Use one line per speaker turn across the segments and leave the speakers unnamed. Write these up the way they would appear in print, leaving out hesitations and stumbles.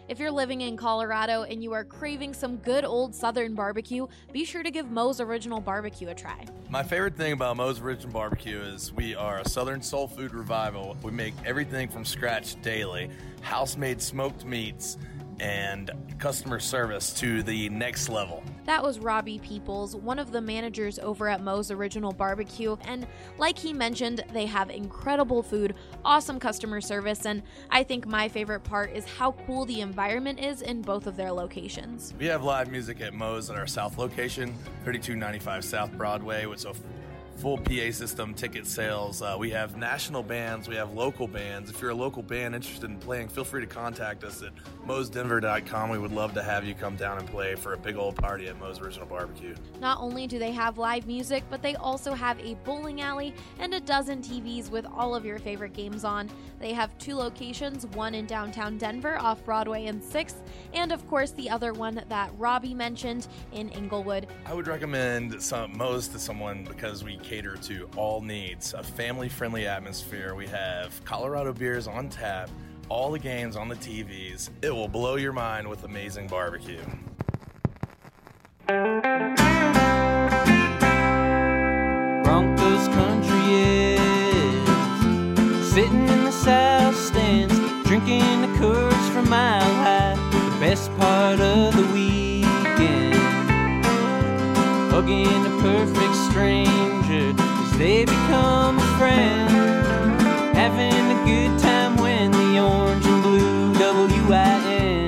If you're living in Colorado and you are craving some good old Southern barbecue, be sure to give Moe's Original Barbecue a try.
My favorite thing about Moe's Original Barbecue is we are a Southern soul food revival. We make everything from scratch daily, house-made smoked meats, and customer service to the next level.
That was Robbie Peoples, one of the managers over at Moe's Original Barbecue, and like he mentioned, they have incredible food, awesome customer service, and I think my favorite part is how cool the environment is in both of their locations.
We have live music at Moe's at our South location, 3295 South Broadway, with a full PA system, ticket sales. We have national bands, we have local bands. If you're a local band interested in playing, feel free to contact us at moesdenver.com. We would love to have you come down and play for a big old party at Moe's Original Barbecue.
Not only do they have live music, but they also have a bowling alley and a dozen TVs with all of your favorite games on. They have 2 locations, one in downtown Denver off Broadway and 6th, and of course the other one that Robbie mentioned in Inglewood.
I would recommend Moe's to someone because we cater to all needs, a family-friendly atmosphere. We have Colorado beers on tap, all the games on the TVs. It will blow your mind with amazing barbecue.
Broncos country is sitting in the south stands, drinking the Coors from Mile High. The best part of the weekend, hugging a perfect stranger as they become a friend, having a good time when the orange and blue WIN,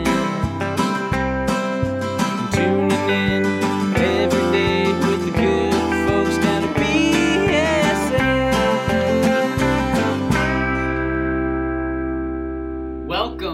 tuning in every day with the good folks down at BSN.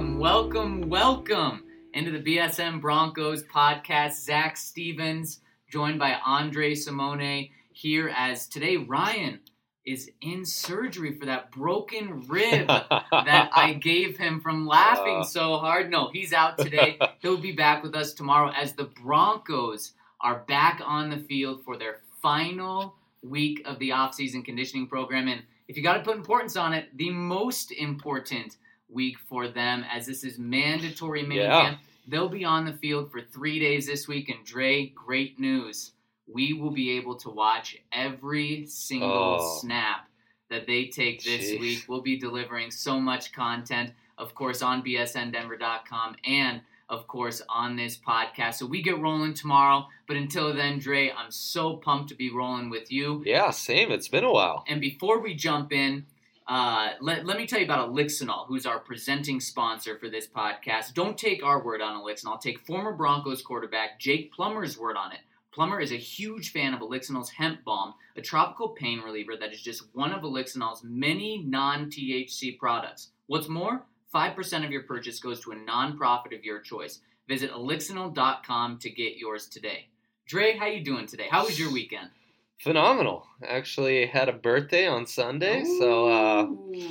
Welcome into the BSN Broncos podcast. Zach Stevens, joined by Andre Simone, here as today Ryan is in surgery for that broken rib that I gave him from laughing so hard. No, he's out today. He'll be back with us tomorrow as the Broncos are back on the field for their final week of the offseason conditioning program. And if you got to put importance on it, the most important week for them, as this is mandatory minicamp. They'll be on the field for 3 days this week. And Dre, great news. We will be able to watch every single snap that they take this week. We'll be delivering so much content, of course, on bsndenver.com and, of course, on this podcast. So we get rolling tomorrow. But until then, Dre, I'm so pumped to be rolling with you.
Yeah, same. It's been a while.
And before we jump in, let me tell you about Elixinol, who's our presenting sponsor for this podcast. Don't take our word on Elixinol. Take former Broncos quarterback Jake Plummer's word on it. Plummer is a huge fan of Elixinol's hemp balm, a tropical pain reliever that is just one of Elixinol's many non-THC products. What's more, 5% of your purchase goes to a nonprofit of your choice. Visit Elixinol.com to get yours today. Dre, how you doing today? How was your weekend?
Phenomenal. Actually had a birthday on Sunday, so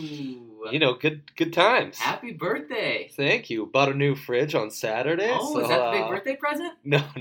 good times.
Happy birthday.
Thank you. Bought a new fridge on Saturday.
Oh, is that the big birthday present?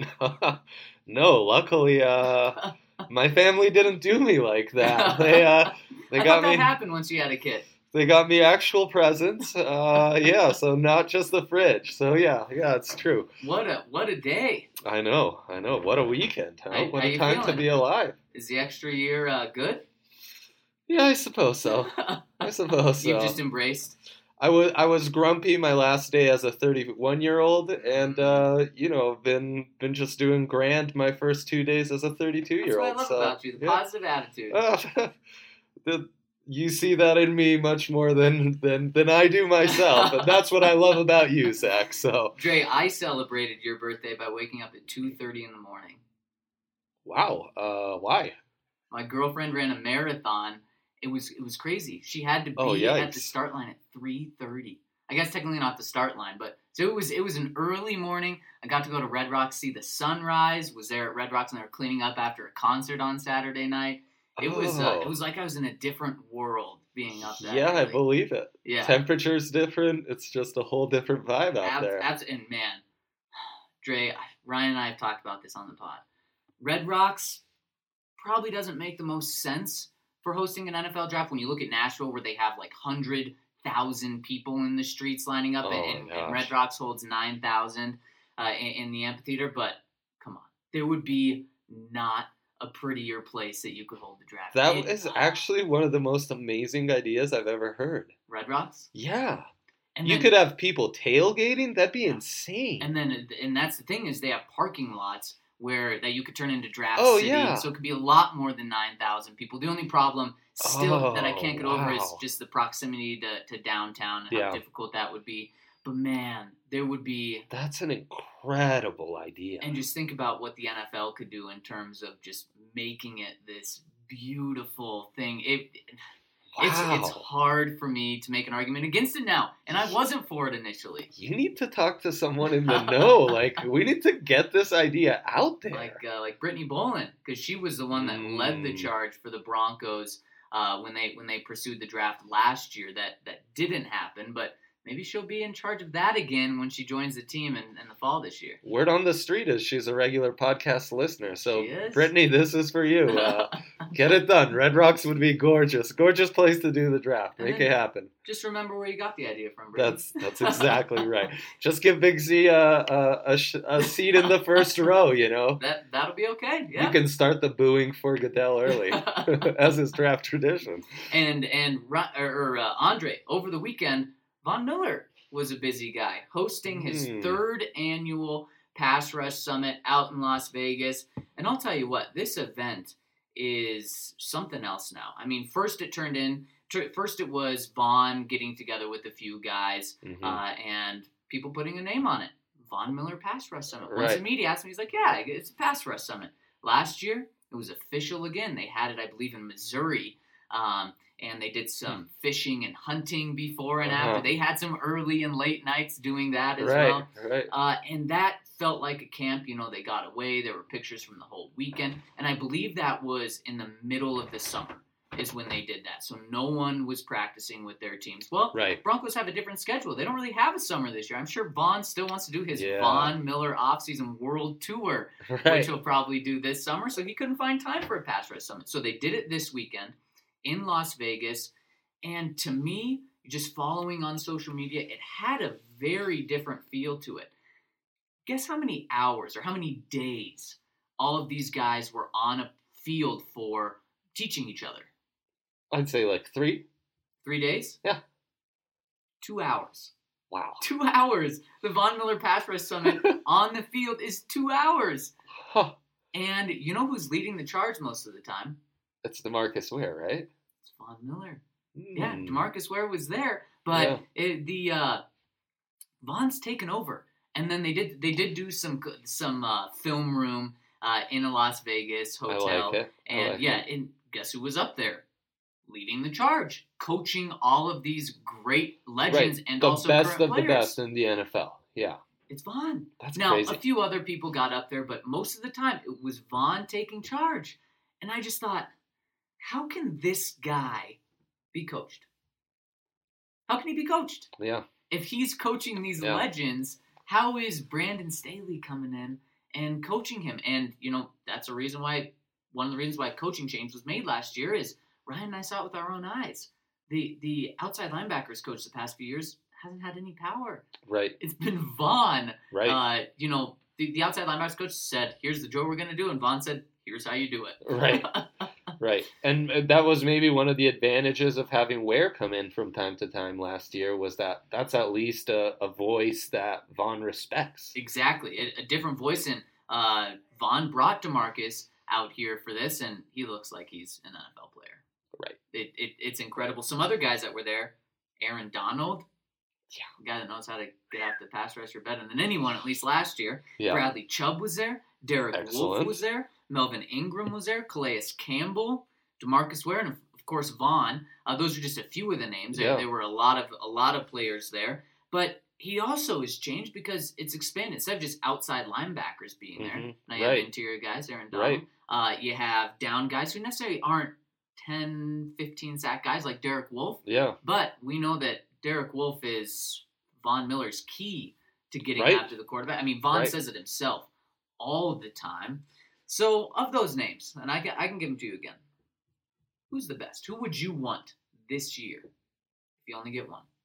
No, luckily my family didn't do me like that. They
I
got
thought
me
that happened once you had a kid.
They got me actual presents. So not just the fridge. So yeah, it's true.
What a day.
I know. What a weekend, huh? What a time to be alive.
Is the extra year good?
Yeah, I suppose so.
You've just embraced.
I was grumpy my last day as a 31-year-old, and been just doing grand my first 2 days as a 32-year-old.
That's what I love about you, the positive attitude.
You see that in me much more than I do myself, and that's what I love about you, Zach. So,
Dre, I celebrated your birthday by waking up at 2:30 in the morning.
Wow. Why?
My girlfriend ran a marathon. It was crazy. She had to be at the start line at 3:30. I guess technically not the start line, but so it was an early morning. I got to go to Red Rocks, see the sunrise. Was there at Red Rocks, and they were cleaning up after a concert on Saturday night. It was like I was in a different world being up there.
Yeah, I believe it.
Yeah.
Temperature's different. It's just a whole different vibe out there.
And man, Dre, Ryan and I have talked about this on the pod. Red Rocks probably doesn't make the most sense for hosting an NFL draft when you look at Nashville, where they have like 100 8,000 people in the streets lining up, and Red Rocks holds 9,000 in the amphitheater. But come on, there would be not a prettier place that you could hold the draft.
That is actually one of the most amazing ideas I've ever heard.
Red Rocks?
Yeah.
And
you could have people tailgating? That'd be insane.
And that's the thing, is they have parking lots that you could turn into Draft City.
Yeah.
So it could be a lot more than 9,000 people. The only problem still that I can't get over is just the proximity to downtown and how difficult that would be. But man, there would be...
That's an incredible idea.
And just think about what the NFL could do in terms of just making it this beautiful thing. It's hard for me to make an argument against it now, and I wasn't for it initially.
You need to talk to someone in the know. Like, we need to get this idea out there.
Like Brittany Bolin, because she was the one that led the charge for the Broncos when they pursued the draft last year. That didn't happen, but maybe she'll be in charge of that again when she joins the team in the fall this year.
Word on the street is she's a regular podcast listener. So, Brittany, this is for you. Get it done. Red Rocks would be gorgeous. Gorgeous place to do the draft. Make it happen.
Just remember where you got the idea from, Brittany.
That's exactly right. Just give Big Z a seat in the first row, you know.
That'll be okay, yeah.
You can start the booing for Goodell early, as is draft tradition.
And Andre, over the weekend, Von Miller was a busy guy, hosting his third annual Pass Rush Summit out in Las Vegas. And I'll tell you what, this event is something else now. I mean, first it was Von getting together with a few guys and people putting a name on it. Von Miller Pass Rush Summit. Once the media asked me, he's like, yeah, it's a Pass Rush Summit. Last year, it was official again. They had it, I believe, in Missouri. And they did some fishing and hunting before and after. They had some early and late nights doing that as well.
Right.
And that felt like a camp. You know, they got away. There were pictures from the whole weekend. And I believe that was in the middle of the summer is when they did that. So no one was practicing with their teams. Well, Broncos have a different schedule. They don't really have a summer this year. I'm sure Von still wants to do his Von Miller offseason world tour, which he'll probably do this summer. So he couldn't find time for a Pass Rush Summit. So they did it this weekend in Las Vegas, and to me, just following on social media, it had a very different feel to it. Guess how many hours or how many days all of these guys were on a field for teaching each other?
I'd say like 3.
3 days?
Yeah.
2 hours.
Wow.
2 hours. The Von Miller Pass Rush Summit on the field is 2 hours.
Huh.
And you know who's leading the charge most of the time?
It's DeMarcus Ware, right?
It's Von Miller. Yeah, DeMarcus Ware was there, but Von's taken over. And then they did do some film room in a Las Vegas hotel.
I like it.
And guess who was up there? Leading the charge, coaching all of these great legends and also current players. The best of the best
in the NFL. Yeah.
It's Von.
That's
now,
crazy.
A few other people got up there, but most of the time it was Von taking charge. And I just thought, how can this guy be coached? How can he be coached?
Yeah.
If he's coaching these legends, how is Brandon Staley coming in and coaching him? And, you know, that's one of the reasons why a coaching change was made last year is Ryan and I saw it with our own eyes. The outside linebackers coach the past few years hasn't had any power.
Right.
It's been Von.
Right.
You know, the outside linebackers coach said, here's the drill we're going to do. And Von said, here's how you do it.
Right. Right. And that was maybe one of the advantages of having Ware come in from time to time last year was that's at least a voice that Von respects.
Exactly. A different voice. And Von brought DeMarcus out here for this, and he looks like he's an NFL player.
Right.
It's incredible. Some other guys that were there, Aaron Donald, a guy that knows how to get out the pass rusher better than anyone, at least last year.
Yeah.
Bradley Chubb was there. Derek Wolfe was there. Melvin Ingram was there. Calais Campbell, DeMarcus Ware, and of course Von. Those are just a few of the names. There were a lot of players there. But he also has changed because it's expanded. Instead of just outside linebackers being there, now you have interior guys, Aaron Donald. You have down guys who necessarily aren't 10, 15 sack guys like Derek Wolfe.
Yeah.
But we know that Derek Wolfe is Von Miller's key to getting after the quarterback. I mean, Von says it himself all the time. So, of those names, and I can give them to you again, who's the best? Who would you want this year if you only get one?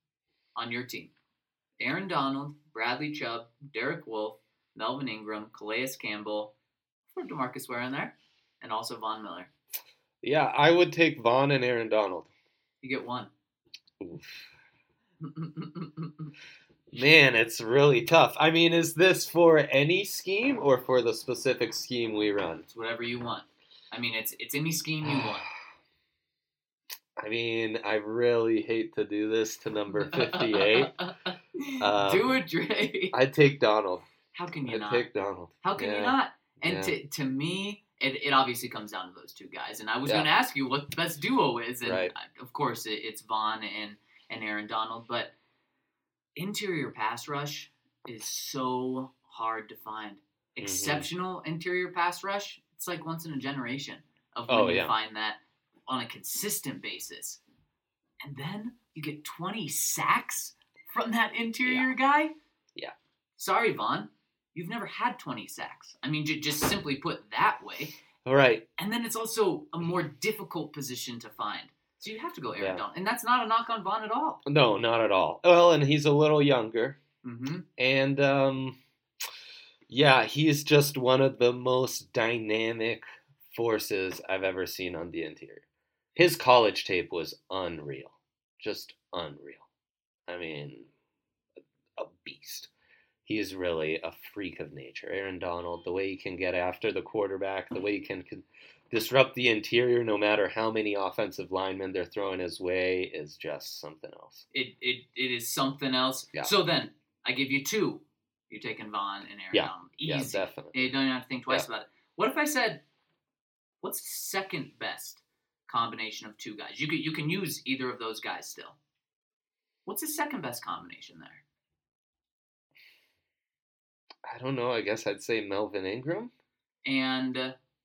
on your team. Aaron Donald, Bradley Chubb, Derek Wolfe, Melvin Ingram, Calais Campbell, for DeMarcus Ware in there, and also Von Miller.
Yeah, I would take Von and Aaron Donald.
You get one.
Oof. Man, it's really tough. I mean, is this for any scheme or for the specific scheme we run?
It's whatever you want. I mean, it's any scheme you want.
I mean, I really hate to do this to number 58.
Do it, Dre.
I'd take Donald.
How can you
I'd
not?
take Donald.
How can you not? And to me, it obviously comes down to those two guys. And I was going to ask you what the best duo is. And of course, it's Von and Aaron Donald. But interior pass rush is so hard to find. Exceptional interior pass rush, it's like once in a generation of when you find that on a consistent basis. And then you get 20 sacks from that interior guy?
Yeah.
Sorry, Von. You've never had 20 sacks. I mean, just simply put that way.
Right.
And then it's also a more difficult position to find. So you have to go Aaron Donald. And that's not a knock on Von at all.
No, not at all. Well, and he's a little younger.
Mm-hmm.
And, he's just one of the most dynamic forces I've ever seen on the interior. His college tape was unreal. Just unreal. I mean, a beast. He's really a freak of nature. Aaron Donald, the way he can get after the quarterback, the way he can disrupt the interior no matter how many offensive linemen they're throwing his way is just something else.
It is something else.
Yeah.
So then, I give you two. You're taking Von and Aaron Donald. Easy.
Yeah, definitely.
You don't even have to think twice about it. What if I said, what's the second best combination of two guys? You can use either of those guys still. What's the second best combination there?
I don't know. I guess I'd say Melvin Ingram.
And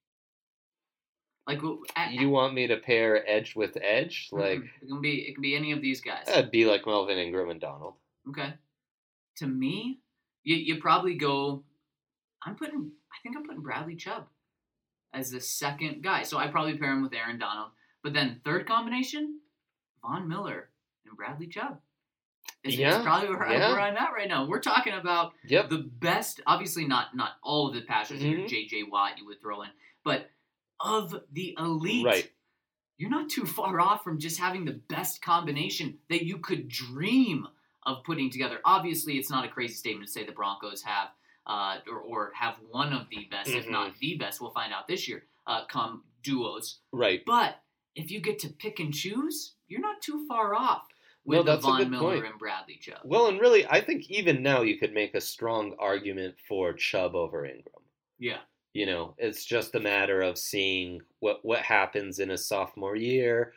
you want me to pair edge with edge? Like
it can be any of these guys.
It'd be like Melvin Ingram and Donald.
Okay. To me, you probably go. I think I'm putting Bradley Chubb as the second guy. So I probably pair him with Aaron Donald. But then third combination, Von Miller and Bradley Chubb. It's probably where I'm at right now. We're talking about the best, obviously not all of the passers, your J.J. Watt you would throw in, but of the elite, you're not too far off from just having the best combination that you could dream of putting together. Obviously, it's not a crazy statement to say the Broncos have or have one of the best, if not the best. We'll find out this year, duos.
Right.
But if you get to pick and choose, you're not too far off with Von Miller and Bradley Chubb.
Well, and really, I think even now you could make a strong argument for Chubb over Ingram.
Yeah.
You know, it's just a matter of seeing what happens in his sophomore year.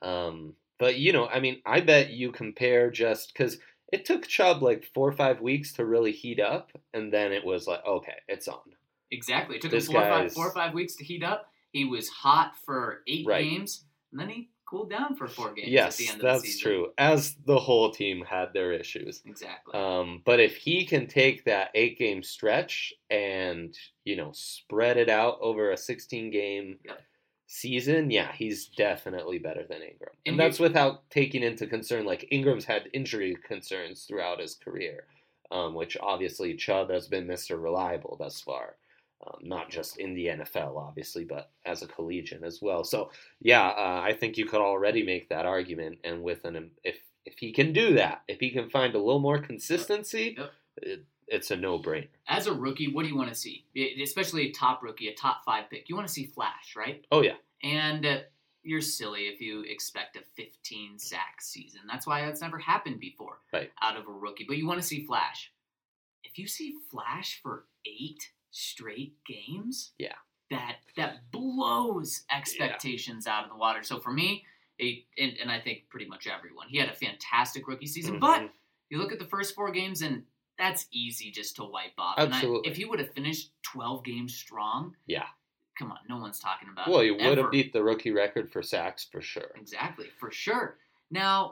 But, you know, I mean, I bet you compare just because it took Chubb like 4 or 5 weeks to really heat up, and then it was like, okay, it's on.
Exactly. It took him 4 or 5 weeks to heat up. He was hot for 8 games, and then he cooled down for 4 games at the end of the season.
That's true. As the whole team had their issues.
Exactly.
But if he can take that 8-game stretch and, you know, spread it out over a 16-game season, he's definitely better than Ingram. And that's without taking into concern, like, Ingram's had injury concerns throughout his career, which obviously Chubb has been Mr. Reliable thus far. Not just in the NFL, obviously, but as a collegiate as well. So, I think you could already make that argument. And with if he can do that, if he can find a little more consistency, it's a no-brainer.
As a rookie, what do you want to see? Especially a top rookie, a top 5 pick. You want to see flash, right?
Oh, yeah.
And you're silly if you expect a 15-sack season. That's why that's never happened before out of a rookie. But you want to see flash. If you see flash for 8 straight games, that blows expectations out of the water. So for me, and I think pretty much everyone, he had a fantastic rookie season. But you look at the first 4 games, and that's easy just to wipe off.
Absolutely.
And if he would have finished 12 games strong, come on, no one's talking about.
Well, he would have beat the rookie record for sacks for sure.
Exactly, for sure. Now,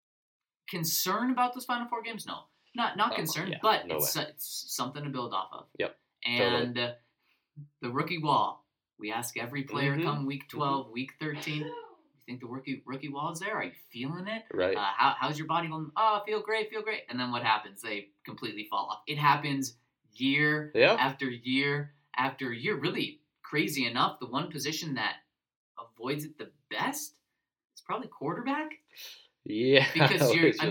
concern about those final 4 games? No, not concerned, but it's something to build off of.
Yep.
And the rookie wall, we ask every player come week 12, week 13, you think the rookie wall is there? Are you feeling it?
Right.
How's your body going? Oh, feel great. And then what happens? They completely fall off. It happens year after year after year. Really crazy enough, the one position that avoids it the best is probably quarterback.
Yeah,
because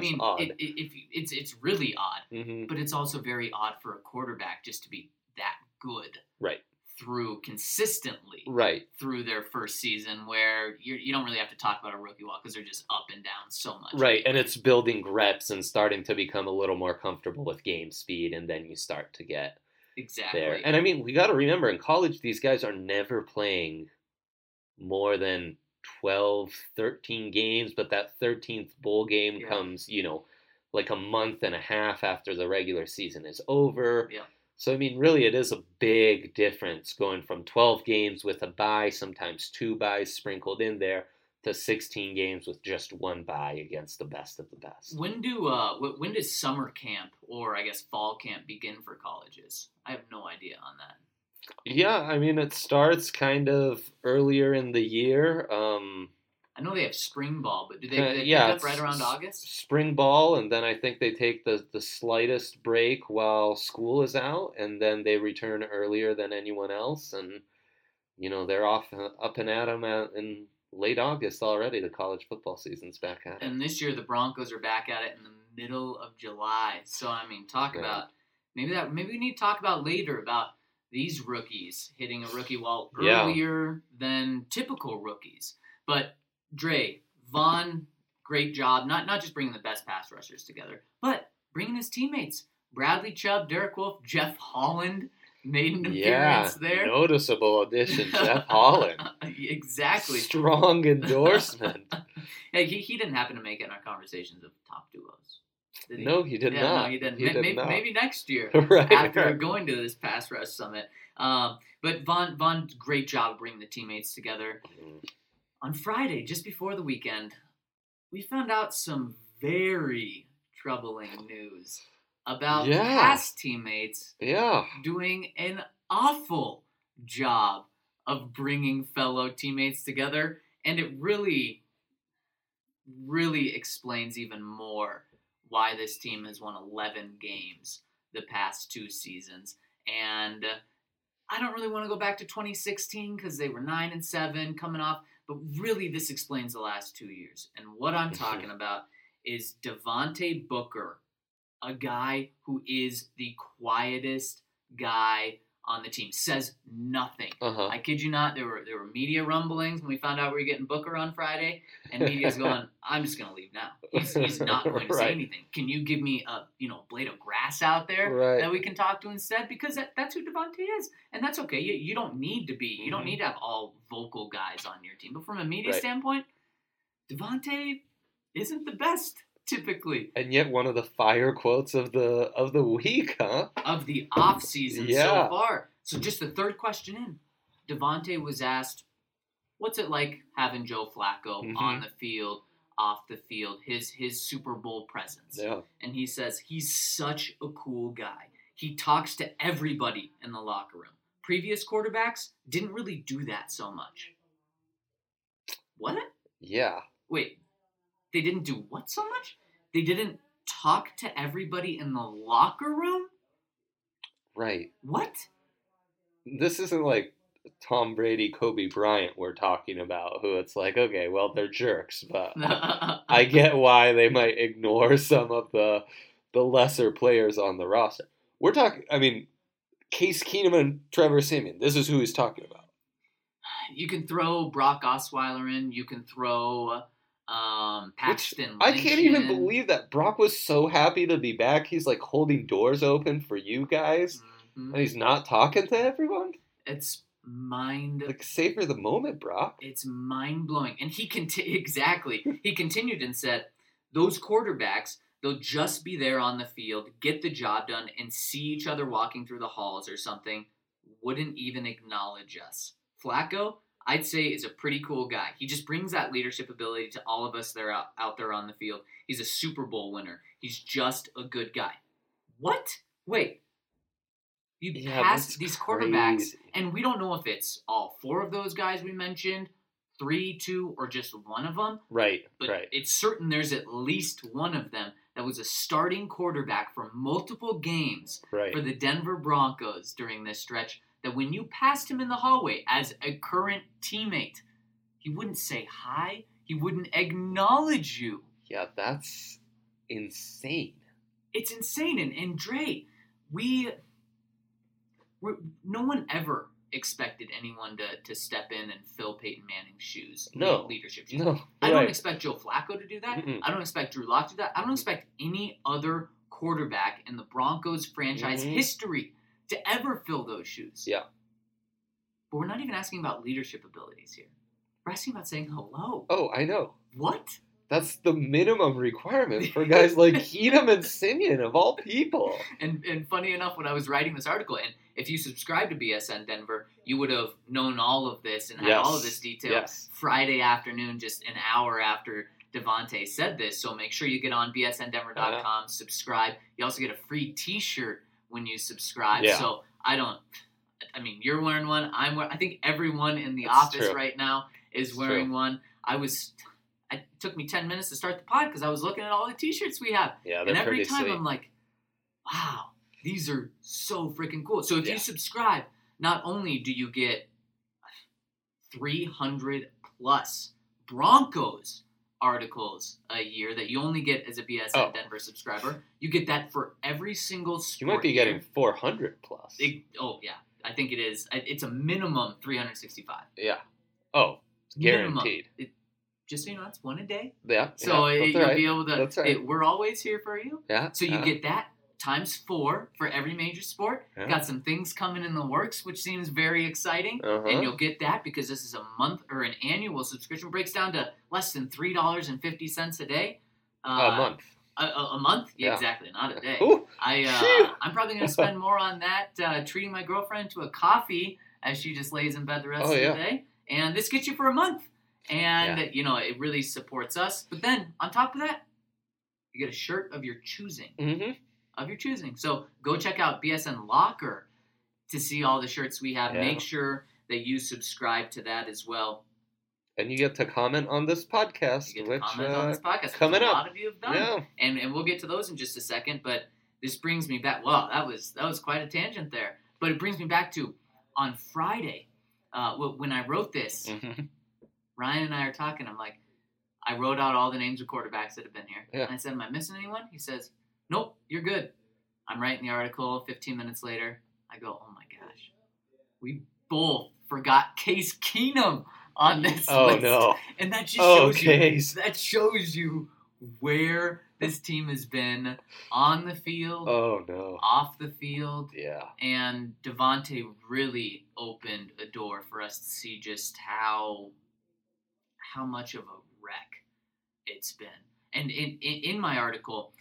it's really odd,
mm-hmm.
but it's also very odd for a quarterback just to be that good,
right?
Through consistently,
right? Through
their first season, where you don't really have to talk about a rookie wall because they're just up and down so much,
right? And it's building reps and starting to become a little more comfortable with game speed, and then you start to get there. And I mean, we got to remember in college, these guys are never playing more than 12, 13 games, but that 13th bowl game comes, like a month and a half after the regular season is over.
Yeah.
So, I mean, really, it is a big difference going from 12 games with a bye, sometimes 2 byes sprinkled in there, to 16 games with just 1 bye against the best of the best.
When does summer camp, or I guess fall camp, begin for colleges? I have no idea on that.
Yeah, I mean, it starts kind of earlier in the year.
I know they have spring ball, but do they pick up right around August?
Spring ball, and then I think they take the slightest break while school is out, and then they return earlier than anyone else, and, they're off up and at them in late August already. The college football season's back at it.
And this year the Broncos are back at it in the middle of July. So, I mean, about maybe we need to talk about later about these rookies hitting a rookie wall earlier than typical rookies. But Dre, Vaughn, great job. Not just bringing the best pass rushers together, but bringing his teammates. Bradley Chubb, Derek Wolfe, Jeff Holland made an appearance there.
Noticeable addition, Jeff Holland.
Exactly.
Strong endorsement.
Hey, he didn't happen to make it in our conversations of top duos. Did he?
No, he did not.
No, he didn't.
Maybe
next year,
right,
after going to this pass rush summit. But Vaughn, great job bringing the teammates together. On Friday, just before the weekend, we found out some very troubling news about past teammates doing an awful job of bringing fellow teammates together. And it really, really explains even more why this team has won 11 games the past 2 seasons. And I don't really want to go back to 2016 because they were 9-7 coming off, but really this explains the last 2 years. And what I'm talking about is Devontae Booker, a guy who is the quietest guy on the team, says nothing. I kid you not, there were media rumblings when we found out we were getting Booker on Friday, and media's going, I'm just going to leave now. He's not going to say anything. Can you give me a blade of grass out there that we can talk to instead? Because that's who Devontae is, and that's okay. You don't need to be. You don't need to have all vocal guys on your team. But from a media standpoint, Devontae isn't the best. Typically.
And yet one of the fire quotes of the week, huh?
Of the off season so far. So just the third question in. Devontae was asked, what's it like having Joe Flacco on the field, off the field, his Super Bowl presence?
Yeah.
And he says he's such a cool guy. He talks to everybody in the locker room. Previous quarterbacks didn't really do that so much. What?
Yeah.
Wait. They didn't do what so much? They didn't talk to everybody in the locker room?
Right.
What?
This isn't like Tom Brady, Kobe Bryant we're talking about, who it's like, okay, well, they're jerks, but I get why they might ignore some of the lesser players on the roster. We're talking, I mean, Case Keenum and Trevor Siemian. This is who he's talking about.
You can throw Brock Osweiler in. You can throw... Paxton Lynch.
I can't even believe that Brock was so happy to be back. He's like holding doors open for you guys, and he's not talking to everyone.
It's
savor the moment, Brock.
It's mind blowing, and he He continued and said, "Those quarterbacks, they'll just be there on the field, get the job done, and see each other walking through the halls or something. Wouldn't even acknowledge us." Flacco, I'd say, is a pretty cool guy. He just brings that leadership ability to all of us that are out there on the field. He's a Super Bowl winner. He's just a good guy. What? Wait. You pass these quarterbacks, and we don't know if it's all 4 of those guys we mentioned, 3, 2, or just one of them.
Right,
But
right.
it's certain there's at least one of them that was a starting quarterback for multiple games
Right.
for the Denver Broncos during this stretch, that when you passed him in the hallway as a current teammate, he wouldn't say hi. He wouldn't acknowledge you.
Yeah, that's insane.
It's insane. And Dre, no one ever expected anyone to step in and fill Peyton Manning's shoes.
No.
Leadership shoes.
No,
I don't
right.
expect Joe Flacco to do that.
Mm-mm.
I don't expect Drew Lock to do that. I don't expect any other quarterback in the Broncos franchise history to ever fill those shoes.
Yeah.
But we're not even asking about leadership abilities here. We're asking about saying hello.
Oh, I know.
What?
That's the minimum requirement for guys like Keenum and Simeon, of all people.
And funny enough, when I was writing this article, and if you subscribe to BSN Denver, you would have known all of this and had all of this detail Friday afternoon, just an hour after Devontae said this. So make sure you get on bsndenver.com, subscribe. You also get a free T-shirt when you subscribe.
Yeah.
So you're wearing one. I think everyone in the
That's
office
true.
right now is wearing one. It took me 10 minutes to start the pod because I was looking at all the T-shirts we have.
Yeah, they're
and every
pretty
time
sweet.
I'm like, wow, these are so freaking cool. So if you subscribe, not only do you get 300 plus Broncos articles a year that you only get as a BSN Denver subscriber, you get that for every single sport.
You might be getting 400 plus.
I think it is. It's a minimum 365.
Yeah. Oh, guaranteed.
Just so you know, it's one a day.
Yeah.
So you'll
right.
be able to.
That's right.
We're always here for you.
Yeah.
So you get that times 4 for every major sport.
Yeah.
Got some things coming in the works, which seems very exciting.
Uh-huh.
And you'll get that because this is a month or an annual subscription. Breaks down to less than $3.50 a day.
A month.
A month?
Yeah.
Exactly, not a day.
Ooh.
I'm probably going to spend more on that, treating my girlfriend to a coffee as she just lays in bed the rest of the day. And this gets you for a month. And, it really supports us. But then, on top of that, you get a shirt of your choosing.
Mm-hmm.
Of your choosing. So go check out BSN Locker to see all the shirts we have.
Yeah.
Make sure that you subscribe to that as well.
And you get to comment on this podcast,
You get to
which
comment on this podcast,
coming
which a
up.
lot of you have done.
Yeah.
And we'll get to those in just a second. But this brings me back. Wow, that was quite a tangent there. But it brings me back to on Friday when I wrote this.
Mm-hmm.
Ryan and I are talking. I'm like, I wrote out all the names of quarterbacks that have been here.
Yeah.
And I said, am I missing anyone? He says, nope, you're good. I'm writing the article. 15 minutes later, I go, oh my gosh. We both forgot Case Keenum on this list.
Oh, no.
And that just
Case.
shows you where this team has been on the field,
Oh, no.
off the field.
Yeah.
And Devontae really opened a door for us to see just how much of a wreck it's been. And in my article,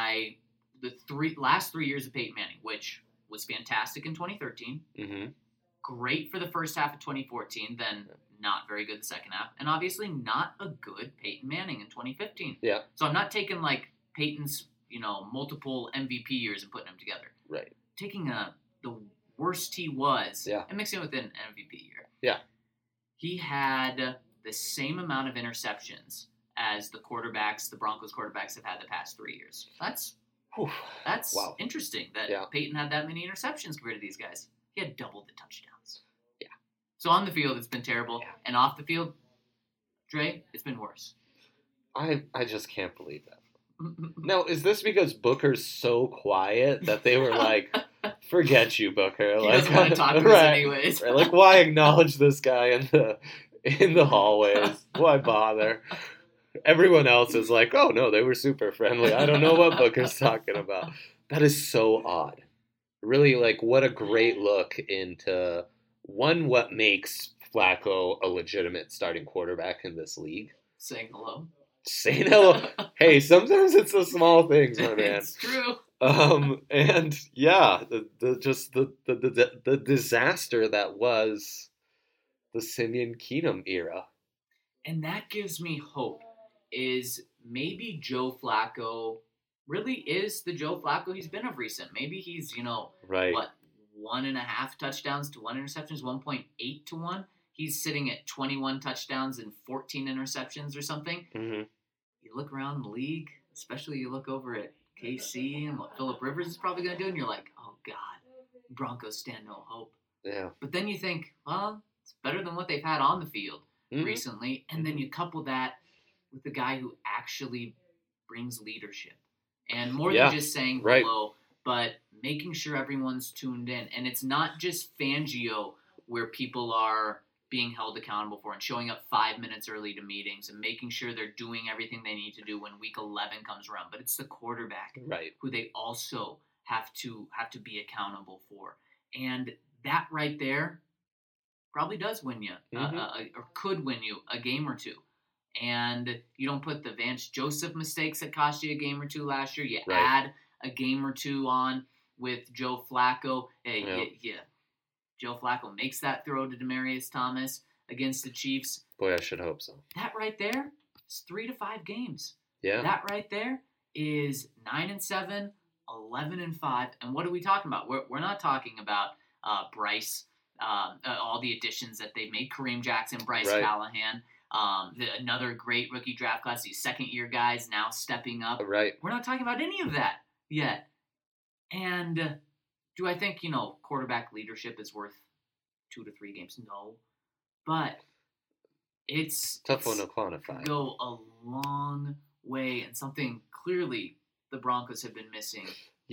last 3 years of Peyton Manning, which was fantastic in 2013,
Mm-hmm.
great for the first half of 2014, then not very good the second half, and obviously not a good Peyton Manning in 2015.
Yeah.
So I'm not taking like Peyton's multiple MVP years and putting them together.
Right.
Taking the worst he was
Yeah.
and mixing it with an MVP year.
Yeah.
He had the same amount of interceptions as the Broncos quarterbacks have had the past 3 years. That's
Wow.
interesting that Peyton had that many interceptions compared to these guys. He had double the touchdowns.
Yeah.
So on the field, it's been terrible.
Yeah.
And off the field, Dre, it's been worse.
I just can't believe that. Now, is this because Booker's so quiet that they were like, forget you, Booker?
He
like,
doesn't want to talk to us anyways.
Right, like, why acknowledge this guy in the hallways? Why bother? Everyone else is like, oh, no, they were super friendly. I don't know what Booker's talking about. That is so odd. Really, like, what a great look into, what makes Flacco a legitimate starting quarterback in this league.
Saying hello.
Saying hello. Hey, sometimes it's the small things, my man.
It's true.
And yeah, the disaster that was the Simeon Keenum era.
And that gives me hope, is maybe Joe Flacco really is the Joe Flacco he's been of recent. Maybe he's,
Right.
1.5 touchdowns to 1 interception, 1.8 to 1. he's sitting at 21 touchdowns and 14 interceptions or something.
Mm-hmm.
You look around the league, especially you look over at KC and what Phillip Rivers is probably going to do, and you're like, oh, God, Broncos stand no hope.
Yeah.
But then you think, well, it's better than what they've had on the field recently. And then you couple that with the guy who actually brings leadership. And more than just saying hello, but making sure everyone's tuned in. And it's not just Fangio where people are being held accountable for and showing up 5 minutes early to meetings and making sure they're doing everything they need to do when week 11 comes around. But it's the quarterback who they also have to be accountable for. And that right there probably does win you or could win you a game or two. And you don't put the Vance Joseph mistakes that cost you a game or two last year. You add a game or two on with Joe Flacco. Hey, Joe Flacco makes that throw to Demaryius Thomas against the Chiefs.
Boy, I should hope so.
That right there is 3 to 5 games.
Yeah.
That right there is 9-7, 11-5. And what are we talking about? We're not talking about Bryce, all the additions that they've made. Kareem Jackson, Bryce Callahan. Another great rookie draft class. These second-year guys now stepping up.
Right.
We're not talking about any of that yet. And do I think, quarterback leadership is worth 2 to 3 games? No. But it's
tough one to quantify.
Go a long way, and something clearly the Broncos have been missing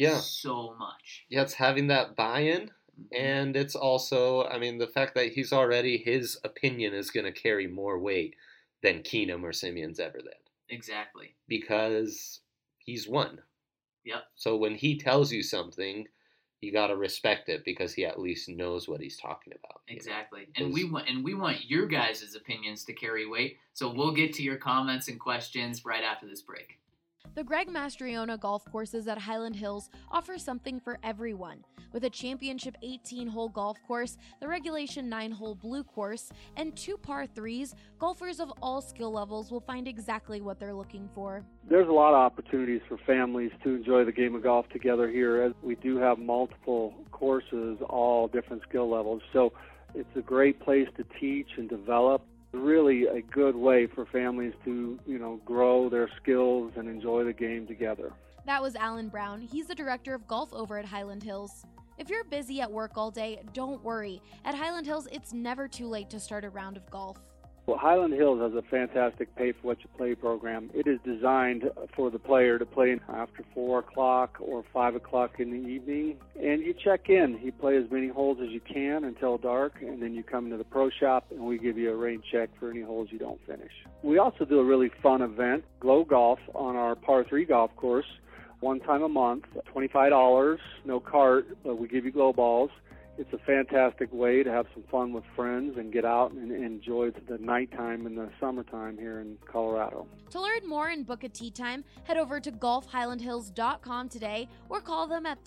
so much.
Yeah, it's having that buy-in. And it's also, the fact that his opinion is going to carry more weight than Keenum or Simeon's ever did.
Exactly.
Because he's won.
Yep.
So when he tells you something, you got to respect it because he at least knows what he's talking about.
Exactly. And we want your guys' opinions to carry weight. So we'll get to your comments and questions right after this break.
The Greg Mastriona golf courses at Highland Hills offer something for everyone. With a championship 18-hole golf course, the regulation 9-hole blue course, and 2 par 3s, golfers of all skill levels will find exactly what they're looking for.
There's a lot of opportunities for families to enjoy the game of golf together here, as we do have multiple courses, all different skill levels. So it's a great place to teach and develop. Really a good way for families to, grow their skills and enjoy the game together.
That was Alan Brown. He's the director of golf over at Highland Hills. If you're busy at work all day, don't worry. At Highland Hills, it's never too late to start a round of golf.
Well, Highland Hills has a fantastic pay-for-what-you-play program. It is designed for the player to play after 4 o'clock or 5 o'clock in the evening. And you check in. You play as many holes as you can until dark, and then you come into the pro shop, and we give you a rain check for any holes you don't finish. We also do a really fun event, Glow Golf, on our par 3 golf course. One time a month, $25, no cart, but we give you glow balls. It's a fantastic way to have some fun with friends and get out and enjoy the nighttime and the summertime here in Colorado.
To learn more and book a tee time, head over to golfhighlandhills.com today or call them at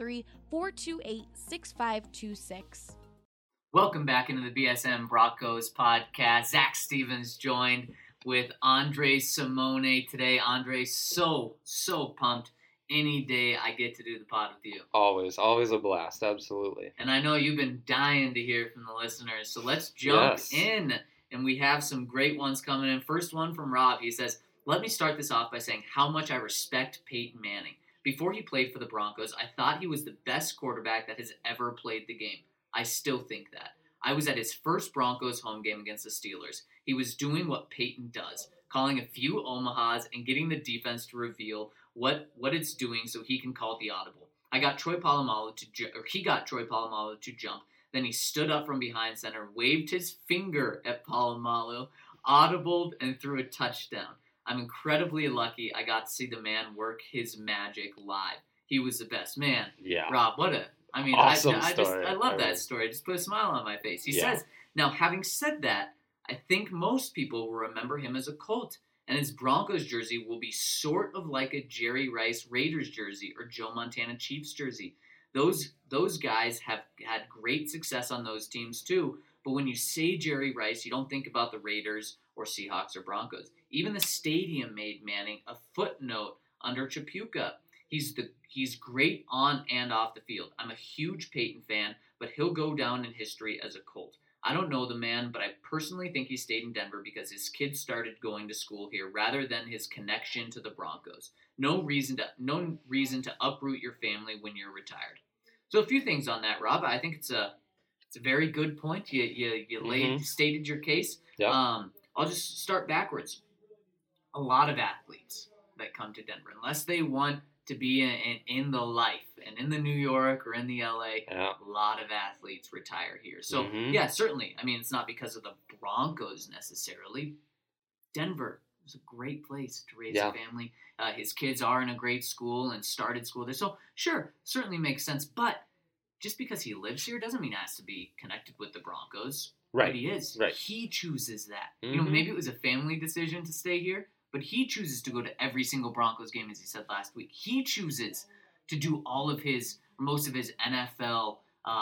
303-428-6526.
Welcome back into the BSM Broncos podcast. Zach Stevens joined with Andre Simone today. Andre, so pumped. Any day I get to do the pod with you.
Always a blast, absolutely.
And I know you've been dying to hear from the listeners, so let's jump in. And we have some great ones coming in. First one from Rob. He says, let me start this off by saying how much I respect Peyton Manning. Before he played for the Broncos, I thought he was the best quarterback that has ever played the game. I still think that. I was at his first Broncos home game against the Steelers. He was doing what Peyton does, calling a few Omahas and getting the defense to reveal what it's doing so he can call the audible. He got Troy Polamalu to jump. Then he stood up from behind center, waved his finger at Polamalu, audibled, and threw a touchdown. I'm incredibly lucky I got to see the man work his magic live. He was the best. Man,
yeah.
Rob,
awesome
I love that story. Just put a smile on my face. He says, now having said that, I think most people will remember him as a Colt. And his Broncos jersey will be sort of like a Jerry Rice Raiders jersey or Joe Montana Chiefs jersey. Those guys have had great success on those teams too. But when you say Jerry Rice, you don't think about the Raiders or Seahawks or Broncos. Even the stadium made Manning a footnote under Chapuka. He's great on and off the field. I'm a huge Peyton fan, but he'll go down in history as a Colt. I don't know the man, but I personally think he stayed in Denver because his kids started going to school here rather than his connection to the Broncos. No reason to uproot your family when you're retired. So a few things on that, Rob. I think it's a very good point. You stated your case.
Yep.
I'll just start backwards. A lot of athletes that come to Denver, unless they want to be in the life and in the New York or in the LA, a lot of athletes retire here. So, yeah, certainly. I mean, it's not because of the Broncos necessarily. Denver is a great place to raise a family. His kids are in a great school and started school there. So, sure, certainly makes sense. But just because he lives here doesn't mean he has to be connected with the Broncos.
Right.
But he is.
Right.
He chooses that. You know, maybe it was a family decision to stay here, but he chooses to go to every single Broncos game, as he said last week. He chooses to do most of his NFL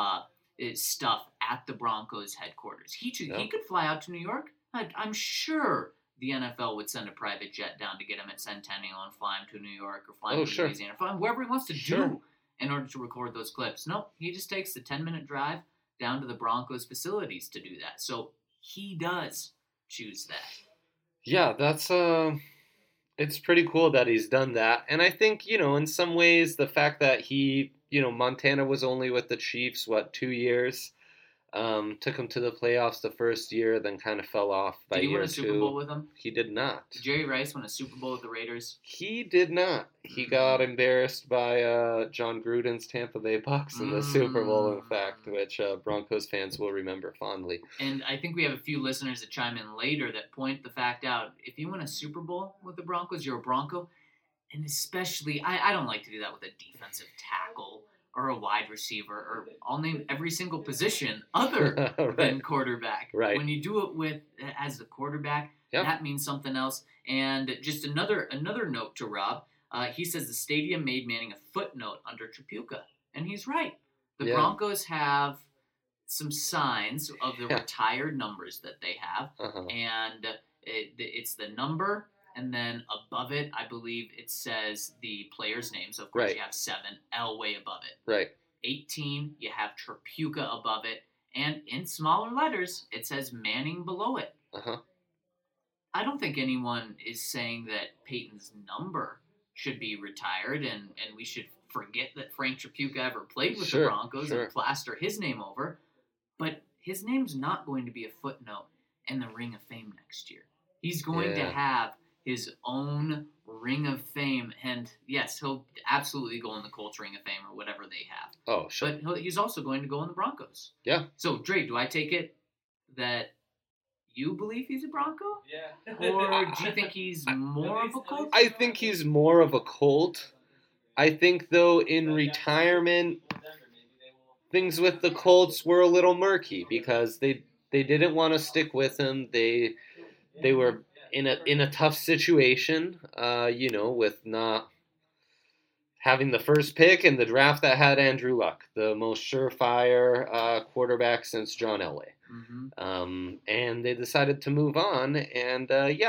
stuff at the Broncos headquarters. He could fly out to New York. I'm sure the NFL would send a private jet down to get him at Centennial and fly him to New York or fly him to Louisiana, fly him wherever he wants to do in order to record those clips. No, he just takes the 10-minute drive down to the Broncos facilities to do that. So he does choose that.
Yeah, that's it's pretty cool that he's done that. And I think, in some ways the fact that he, Montana was only with the Chiefs 2 years. Took him to the playoffs the first year, then kind of fell off by year 2.
Did he win a Super Bowl with them?
He did not.
Did Jerry Rice win a Super Bowl with the Raiders?
He did not. He got embarrassed by John Gruden's Tampa Bay Bucks in the Super Bowl, in fact, which Broncos fans will remember fondly.
And I think we have a few listeners that chime in later that point the fact out. If you win a Super Bowl with the Broncos, you're a Bronco. And especially, I don't like to do that with a defensive tackle or a wide receiver, or I'll name every single position other than quarterback.
Right.
When you do it as the quarterback, that means something else. And just another note to Rob, he says the stadium made Manning a footnote under Tripucka. And he's right. The Broncos have some signs of the retired numbers that they have. And it's the number, and then above it, I believe it says the player's name. So, of course, you have 7, Elway above it.
Right.
18, you have Tripucka above it. And in smaller letters, it says Manning below it. I don't think anyone is saying that Peyton's number should be retired and we should forget that Frank Tripucka ever played with the Broncos and plaster his name over. But his name's not going to be a footnote in the Ring of Fame next year. He's going to have his own Ring of Fame, and yes, he'll absolutely go in the Colts Ring of Fame or whatever they have.
Oh, sure.
But he's also going to go in the Broncos.
Yeah.
So, Dre, do I take it that you believe he's a Bronco? Yeah. Or do you think he's more of a Colt?
I think he's more of a Colt. I think, though, in retirement, things with the Colts were a little murky because they didn't want to stick with him. They were in a tough situation, with not having the first pick in the draft that had Andrew Luck, the most surefire quarterback since John Elway. And they decided to move on, and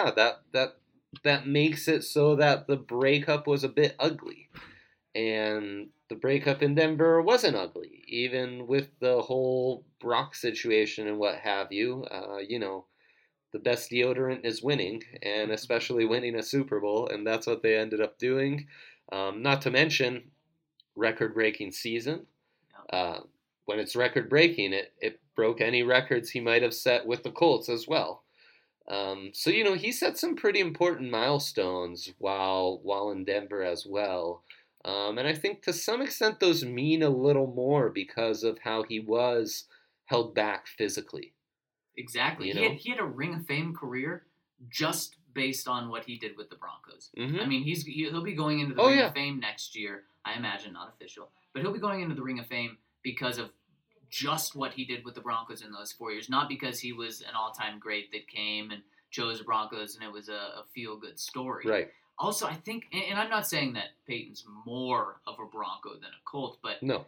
that makes it so that the breakup was a bit ugly. And the breakup in Denver wasn't ugly, even with the whole Brock situation and what have you. The best deodorant is winning, and especially winning a Super Bowl, and that's what they ended up doing. Not to mention, record-breaking season. When it's record-breaking, it broke any records he might have set with the Colts as well. So he set some pretty important milestones while in Denver as well. And I think to some extent those mean a little more because of how he was held back physically.
Exactly. He had a Ring of Fame career just based on what he did with the Broncos. I mean, he'll be going into the Ring of Fame next year. I imagine, not official, but he'll be going into the Ring of Fame because of just what he did with the Broncos in those 4 years, not because he was an all-time great that came and chose the Broncos and it was a feel-good story.
Right.
Also, I think, and I'm not saying that Peyton's more of a Bronco than a Colt, but
no,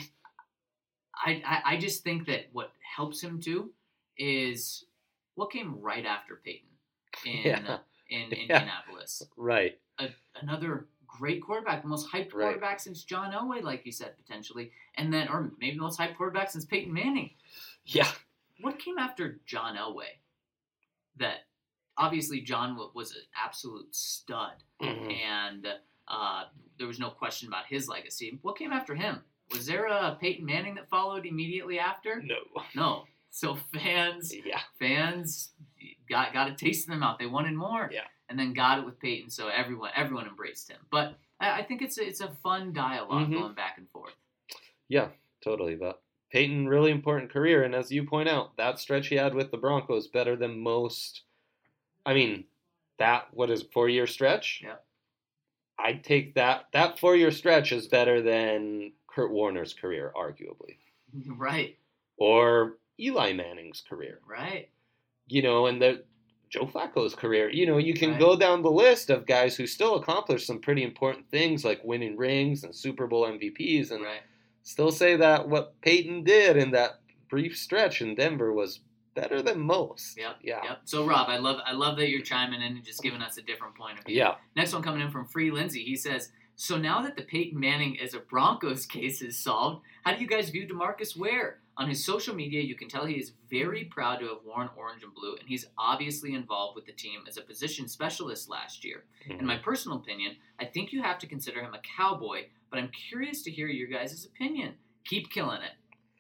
I just think that what helps him too is what came right after Peyton in Indianapolis.
Right.
Another great quarterback, the most hyped quarterback since John Elway, like you said, potentially, and then, or maybe the most hyped quarterback since Peyton Manning.
Yeah.
What came after John Elway? That obviously John was an absolute stud, and there was no question about his legacy. What came after him? Was there a Peyton Manning that followed immediately after? No. So fans got a taste in their mouth. They wanted more, and then got it with Peyton. So everyone embraced him. But I think it's a fun dialogue going back and forth.
Yeah, totally. But Peyton, really important career, and as you point out, that stretch he had with the Broncos better than most. I mean, that 4-year stretch?
Yeah.
I'd take that 4-year stretch is better than Kurt Warner's career, arguably.
Right.
Or Eli Manning's career.
Right.
And Joe Flacco's career. You can go down the list of guys who still accomplished some pretty important things like winning rings and Super Bowl MVPs and still say that what Peyton did in that brief stretch in Denver was better than most.
Yep. So Rob, I love that you're chiming in and just giving us a different point of view.
Yeah.
Next one coming in from Free Lindsay. He says, so now that the Peyton Manning as a Broncos case is solved, how do you guys view DeMarcus Ware? On his social media, you can tell he is very proud to have worn orange and blue, and he's obviously involved with the team as a position specialist last year. In my personal opinion, I think you have to consider him a Cowboy, but I'm curious to hear your guys' opinion. Keep killing it.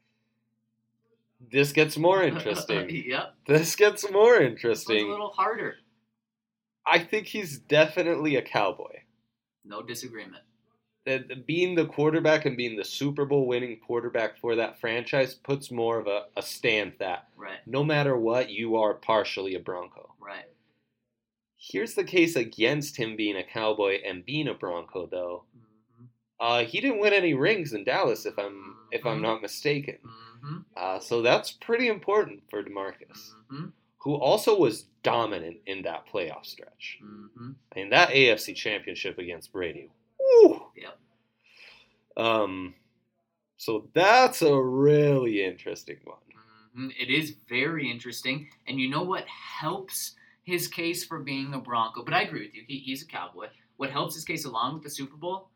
This gets more interesting.
Yep.
This gets more interesting.
It's a little harder.
I think he's definitely a Cowboy.
No disagreement.
Being the quarterback and being the Super Bowl winning quarterback for that franchise puts more of a stamp that no matter what, you are partially a Bronco.
Right.
Here's the case against him being a Cowboy and being a Bronco, though. He didn't win any rings in Dallas, if I'm not mistaken. So that's pretty important for DeMarcus, who also was dominant in that playoff stretch. And that AFC Championship against Brady. Woo!
Yep.
So that's a really interesting one.
It is very interesting. And you know what helps his case for being a Bronco? But I agree with you. He's a Cowboy. What helps his case along with the Super Bowl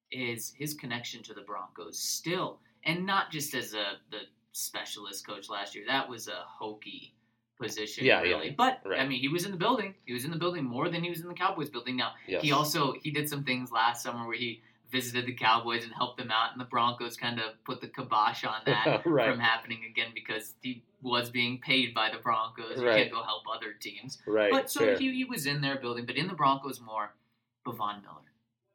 is his connection to the Broncos still. And not just as the specialist coach last year. That was a hokey position, really. Yeah. But, I mean, he was in the building. He was in the building more than he was in the Cowboys building. Now, he did some things last summer where he visited the Cowboys and helped them out, and the Broncos kind of put the kibosh on that from happening again because he was being paid by the Broncos. You can't go help other teams. But so he was in their building, but in the Broncos more. But Von Miller.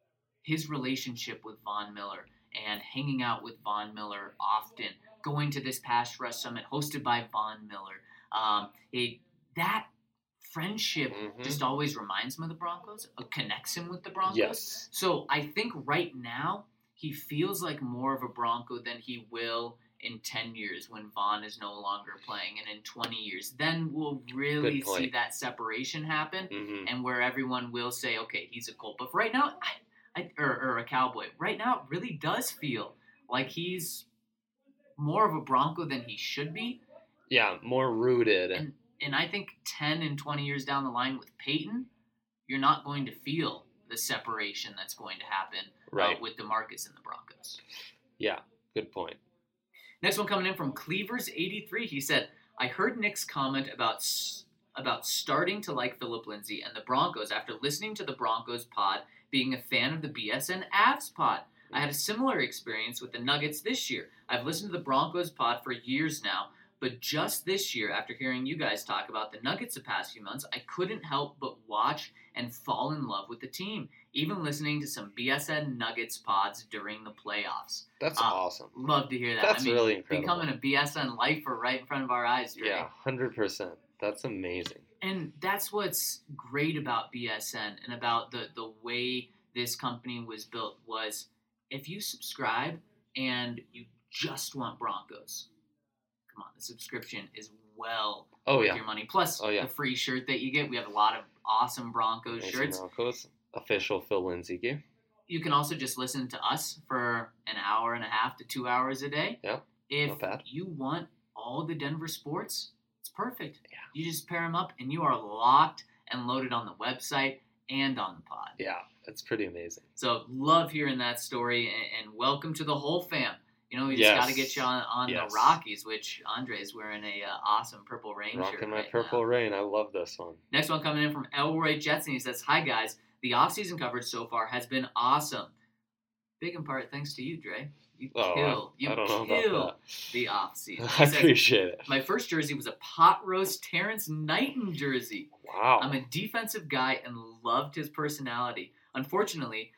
His relationship with Von Miller and hanging out with Von Miller often, going to this Pass Rush Summit hosted by Von Miller. That friendship just always reminds him of the Broncos, connects him with the Broncos.
Yes.
So I think right now he feels like more of a Bronco than he will in 10 years when Von is no longer playing, and in 20 years. Then we'll really see that separation happen, and where everyone will say, okay, he's a Colt. But right now, or a Cowboy. Right now, it really does feel like he's more of a Bronco than he should be.
Yeah, more rooted.
And I think 10 and 20 years down the line with Peyton, you're not going to feel the separation that's going to happen with DeMarcus and the Broncos.
Yeah, good point.
Next one coming in from Cleavers83. He said, I heard Nick's comment about starting to like Phillip Lindsay and the Broncos after listening to the Broncos pod, being a fan of the BSN Avs pod. I had a similar experience with the Nuggets this year. I've listened to the Broncos pod for years now, but just this year, after hearing you guys talk about the Nuggets the past few months, I couldn't help but watch and fall in love with the team, even listening to some BSN Nuggets pods during the playoffs.
That's awesome.
Love to hear that.
That's really incredible.
Becoming a BSN lifer right in front of our eyes. Right?
Yeah, 100%. That's amazing.
And that's what's great about BSN and about the way this company was built was if you subscribe and you just want Broncos, come on, the subscription is well worth your money. Plus the free shirt that you get. We have a lot of awesome Broncos shirts.
Broncos official Phil Lindsay gear.
You can also just listen to us for an hour and a half to 2 hours a day.
Yeah,
if you want all the Denver sports, it's perfect.
Yeah.
You just pair them up, and you are locked and loaded on the website and on the pod.
Yeah, that's pretty amazing.
So love hearing that story, and welcome to the whole fam. You know, we just got to get you on
Yes.
the Rockies, which Andre's wearing a awesome Purple Rain shirt.
Rocking my
right
Purple
now.
Rain. I love this one.
Next one coming in from Elroy Jetson. He says, "Hi guys, the off-season coverage so far has been awesome. Big in part thanks to you, Dre. You kill the off-season."
I appreciate it.
"My first jersey was a pot roast Terrence Knighton jersey.
Wow.
I'm a defensive guy and loved his personality. Unfortunately,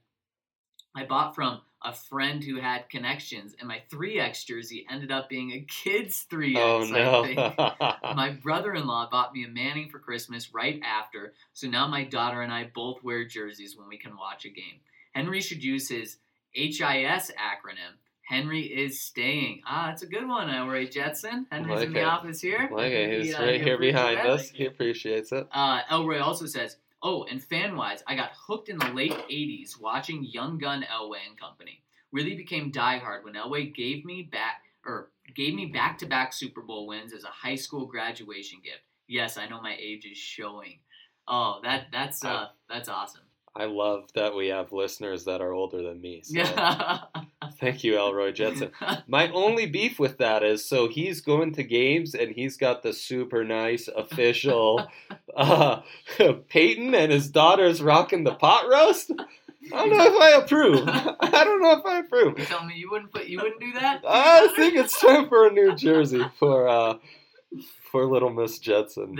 I bought from a friend who had connections, and my 3X jersey ended up being a kid's 3X,
Oh, no.
I think. My brother-in-law bought me a Manning for Christmas right after, so now my daughter and I both wear jerseys when we can watch a game. Henry should use his HIS acronym. Henry is staying." That's a good one, Elroy Jetson. Henry's in the office here.
Like it. He's right here behind us. He appreciates it.
Elroy also says, "Oh, and fan-wise, I got hooked in the late 80s watching Young Gun Elway and company. Really became diehard when Elway gave me back-to-back Super Bowl wins as a high school graduation gift." Yes, I know my age is showing. Oh, that's awesome.
I love that we have listeners that are older than me. So
Yeah.
thank you, Elroy Jetson. My only beef with that is, so he's going to games and he's got the super nice official Peyton, and his daughter's rocking the pot roast. I don't know if I approve.
You tell me you wouldn't do that?
I think it's time for a new jersey for little Miss Jetson.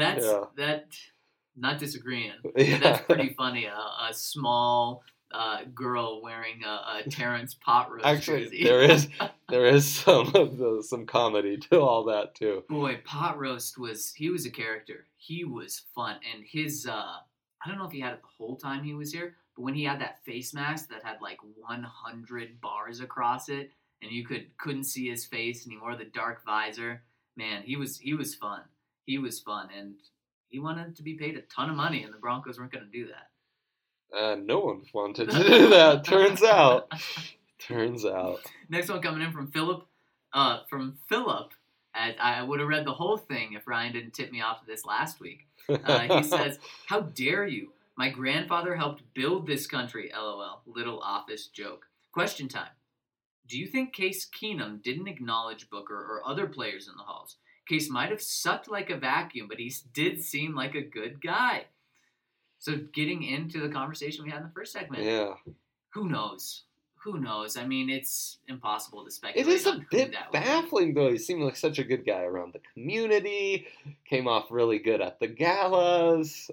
Not disagreeing.
Yeah.
That's pretty funny. A small girl wearing a Terrence pot roast
Actually,
jersey.
there is some comedy to all that too.
Boy, pot roast was a character. He was fun, and his I don't know if he had it the whole time he was here, but when he had that face mask that had like 100 bars across it, and you couldn't see his face, and he wore the dark visor. Man, he was fun. He was fun, and he wanted to be paid a ton of money, and the Broncos weren't going to do that.
No one wanted to do that. Turns out.
Next one coming in from Philip. I would have read the whole thing if Ryan didn't tip me off to this last week. He says, "How dare you? My grandfather helped build this country, LOL. Little office joke. Question time. Do you think Case Keenum didn't acknowledge Booker or other players in the halls? Case might have sucked like a vacuum, but he did seem like a good guy." So getting into the conversation we had in the first segment.
Yeah.
Who knows? I mean, it's impossible to speculate.
It is a
on
bit
who that
baffling, though. He seemed like such a good guy around the community. Came off really good at the galas.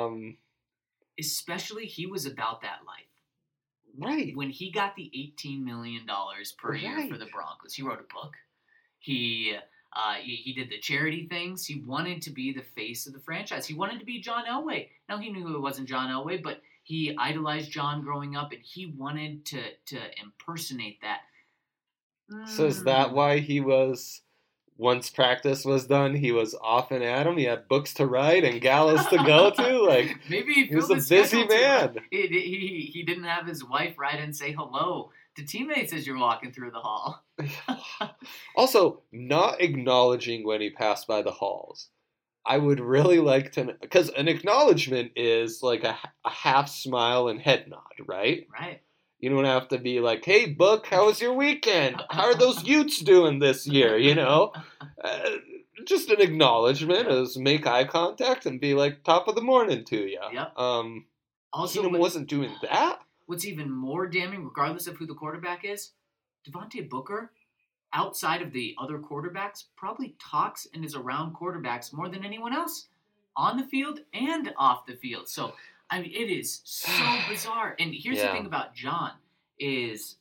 Especially, he was about that life.
Right.
When he got the $18 million per year for the Broncos, he wrote a book. He did the charity things. He wanted to be the face of the franchise. He wanted to be John Elway. Now, he knew it wasn't John Elway, but he idolized John growing up, and he wanted to impersonate that.
So is that why he was, once practice was done, he was off and at 'em? He had books to write and galas to go to? Like,
maybe
he was a busy man.
He didn't have his wife write and say hello to teammates as you're walking through the hall.
Also, not acknowledging when he passed by the halls. I would really like to, because an acknowledgement is like a half smile and head nod, right?
Right.
You don't have to be like, "Hey, Book, how was your weekend? How are those Utes doing this year?" You know? Just an acknowledgement is make eye contact and be like, "Top of the morning to you."
Yep.
Also, Keenum wasn't doing that.
What's even more damning, regardless of who the quarterback is, Devontae Booker, outside of the other quarterbacks, probably talks and is around quarterbacks more than anyone else on the field and off the field. So, I mean, it is so bizarre. And here's the thing about John is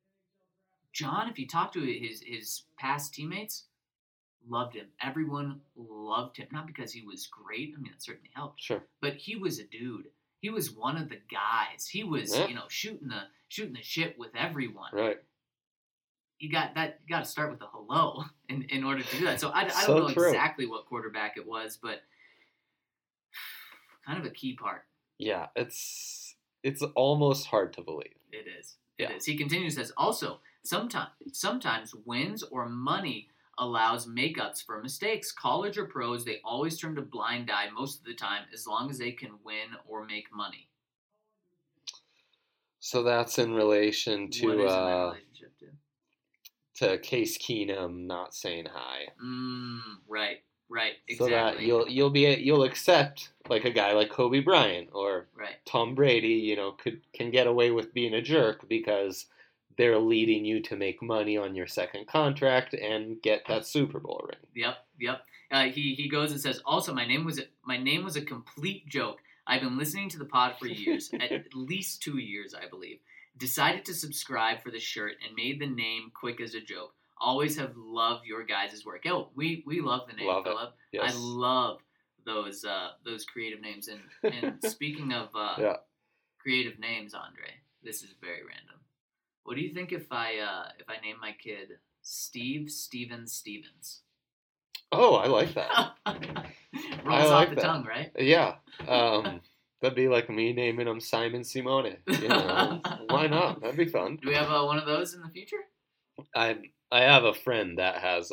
John, if you talk to his past teammates, loved him. Everyone loved him. Not because he was great. I mean, that certainly helped.
Sure.
But he was a dude. He was one of the guys. He was, shooting the shit with everyone.
Right.
You got to start with a hello in order to do that. So I don't know exactly what quarterback it was, but kind of a key part.
Yeah, it's almost hard to believe.
It is. It is. He continues, says, also, sometimes wins or money allows makeups for mistakes. College or pros, they always turn to blind eye most of the time as long as they can win or make money.
So that's in relation to
what is in that relationship to?
to Case Keenum not saying hi.
Right, exactly.
So that you'll accept like a guy like Kobe Bryant or Tom Brady, can get away with being a jerk because they're leading you to make money on your second contract and get that Super Bowl ring.
Yep. He goes and says, also, my name was a complete joke. I've been listening to the pod for years, at least 2 years, I believe. Decided to subscribe for the shirt and made the name quick as a joke. Always have loved your guys' work. Yo, we love the name, Philip. Yes. I love those creative names. And speaking of creative names, Andre, this is very random. What do you think if I name my kid Steven Stevens?
Oh, I like that.
Rolls off the tongue, right?
Yeah. That'd be like me naming him Simon Simone. Why not? That'd be fun.
Do we have one of those in the future?
I have a friend that has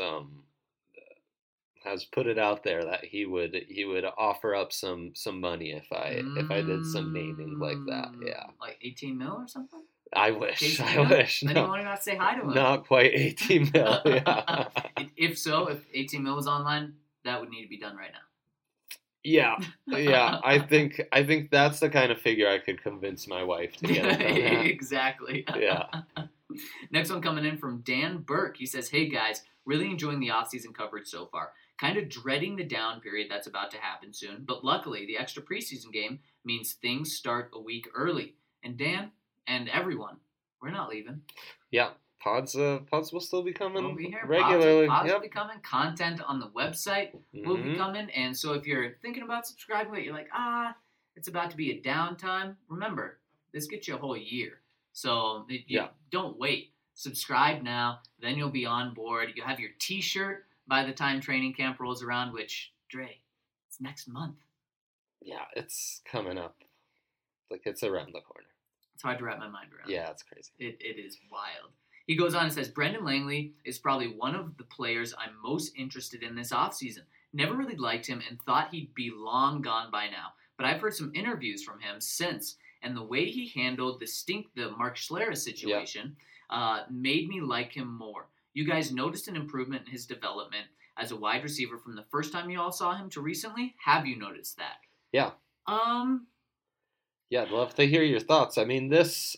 put it out there that he would offer up some money if I did some naming like that. Yeah.
Like 18 mil or something?
I wish.
Then
No,
you want to not say hi to him.
Not quite 18 mil. Yeah.
If 18 mil was online, that would need to be done right now.
Yeah. I think that's the kind of figure I could convince my wife to get it done. Yeah.
Exactly.
Yeah.
Next one coming in from Dan Burke. He says, "Hey guys, really enjoying the off-season coverage so far. Kind of dreading the down period that's about to happen soon, but luckily the extra preseason game means things start a week early. And Dan and everyone, we're not leaving.
Yeah. Pods will still be coming
we'll be here.
regularly.
Pods will be coming. Content on the website will be coming. And so if you're thinking about subscribing, but you're like, it's about to be a downtime, remember, this gets you a whole year. So don't wait. Subscribe now. Then you'll be on board. You'll have your T-shirt by the time training camp rolls around, which, Dre, it's next month.
Yeah, it's coming up. Like, it's around the corner.
It's hard to wrap my mind around.
Yeah, it's crazy.
It is wild. He goes on and says, Brendan Langley is probably one of the players I'm most interested in this offseason. Never really liked him and thought he'd be long gone by now. But I've heard some interviews from him since, and the way he handled the Mark Schlereth situation made me like him more. You guys noticed an improvement in his development as a wide receiver from the first time you all saw him to recently? Have you noticed that?
Yeah. Yeah, I'd love to hear your thoughts. I mean,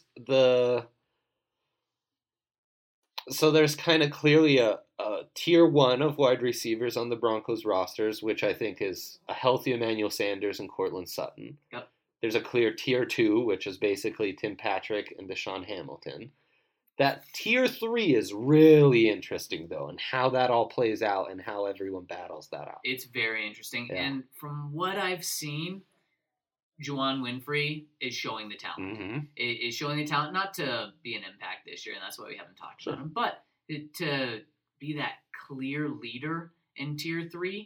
so there's kind of clearly a tier 1 of wide receivers on the Broncos rosters, which I think is a healthy Emmanuel Sanders and Cortland Sutton.
Yep.
There's a clear tier 2, which is basically Tim Patrick and Deshaun Hamilton. That tier 3 is really interesting, though, and how that all plays out and how everyone battles that out.
It's very interesting.
Yeah.
And from what I've seen, Juwan Winfrey is showing the talent.
Mm-hmm.
Is showing the talent, not to be an impact this year, and that's why we haven't talked about him, but to be that clear leader in tier 3.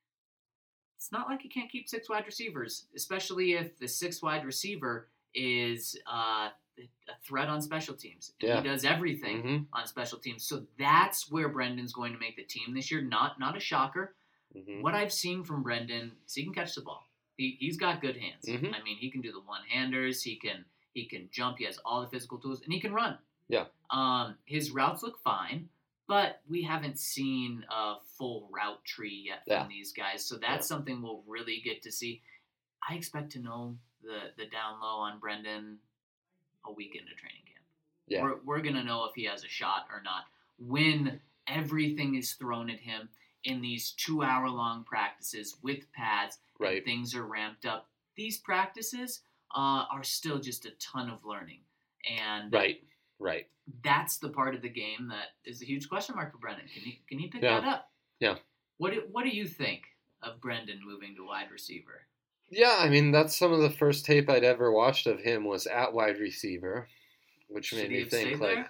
It's not like you can't keep 6 wide receivers, especially if the 6th wide receiver is a threat on special teams. And he does everything on special teams. So that's where Brendan's going to make the team this year. Not a shocker. Mm-hmm. What I've seen from Brendan is he can catch the ball. He's got good hands. Mm-hmm. I mean, he can do the one-handers. He can jump. He has all the physical tools, and he can run.
Yeah.
His routes look fine, but we haven't seen a full route tree yet from these guys. So that's something we'll really get to see. I expect to know the down low on Brendan a week into training camp.
Yeah.
We're going to know if he has a shot or not when everything is thrown at him in these 2-hour-long practices with pads.
Right.
And things are ramped up. These practices are still just a ton of learning. And
right.
That's the part of the game that is a huge question mark for Brendan. Can he pick that up?
Yeah.
What do you think of Brendan moving to wide receiver?
Yeah, I mean, that's some of the first tape I'd ever watched of him was at wide receiver, which made me think, like,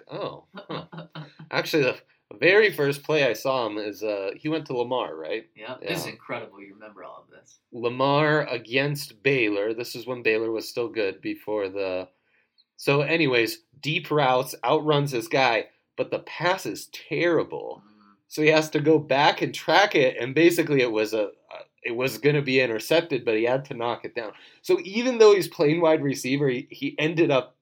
Actually, the very first play I saw him is he went to Lamar, right?
Yeah, this is incredible. You remember all of this.
Lamar against Baylor. This is when Baylor was still good before the... So anyways, deep routes, outruns this guy, but the pass is terrible. So he has to go back and track it, and basically it was going to be intercepted, but he had to knock it down. So even though he's playing wide receiver, he ended up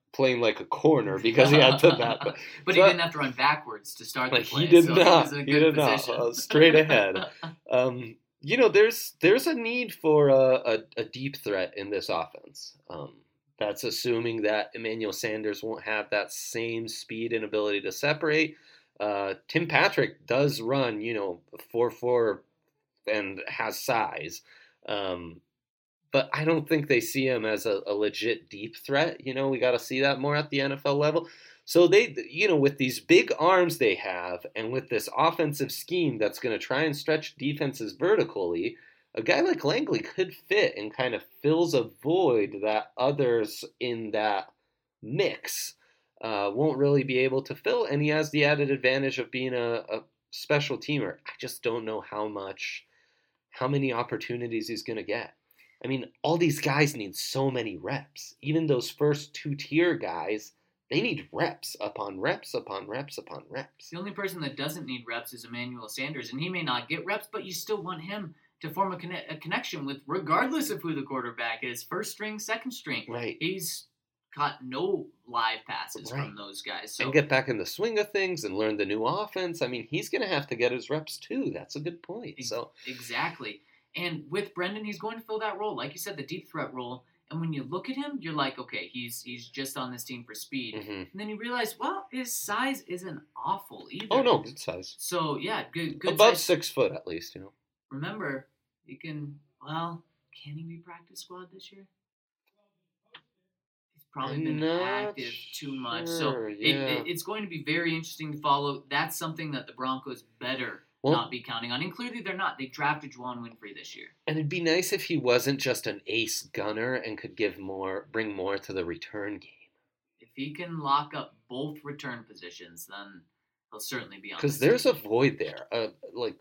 playing like a corner because he had to that.
But he didn't have to run backwards to start the play.
He did
so
not.
He
did not. Straight ahead. There's a need for a deep threat in this offense. That's assuming that Emmanuel Sanders won't have that same speed and ability to separate. Tim Patrick does run, 4.4 and has size. But I don't think they see him as a legit deep threat. We got to see that more at the NFL level. So they, with these big arms they have and with this offensive scheme that's going to try and stretch defenses vertically, a guy like Langley could fit and kind of fills a void that others in that mix won't really be able to fill. And he has the added advantage of being a special teamer. I just don't know how many opportunities he's going to get. I mean, all these guys need so many reps. Even those first two-tier guys, they need reps upon reps upon reps upon reps.
The only person that doesn't need reps is Emmanuel Sanders, and he may not get reps, but you still want him to form a connection with, regardless of who the quarterback is, first string, second string.
Right.
He's got no live passes from those guys. So
and get back in the swing of things and learn the new offense. I mean, he's going to have to get his reps too. That's a good point.
Exactly. And with Brendan, he's going to fill that role. Like you said, the deep threat role. And when you look at him, you're like, okay, he's just on this team for speed. Mm-hmm. And then you realize, well, his size isn't awful either.
Oh, no, good size.
So, yeah, good
Above
size.
6 foot, at least,
Remember, can he be practice squad this year? He's probably been active too much. So it's going to be very interesting to follow. That's something that the Broncos better not be counting on. And clearly they're not. They drafted Juwan Winfrey this year.
And it'd be nice if he wasn't just an ace gunner and could bring more to the return game.
If he can lock up both return positions, then he'll certainly be on.
Because there's a void there. A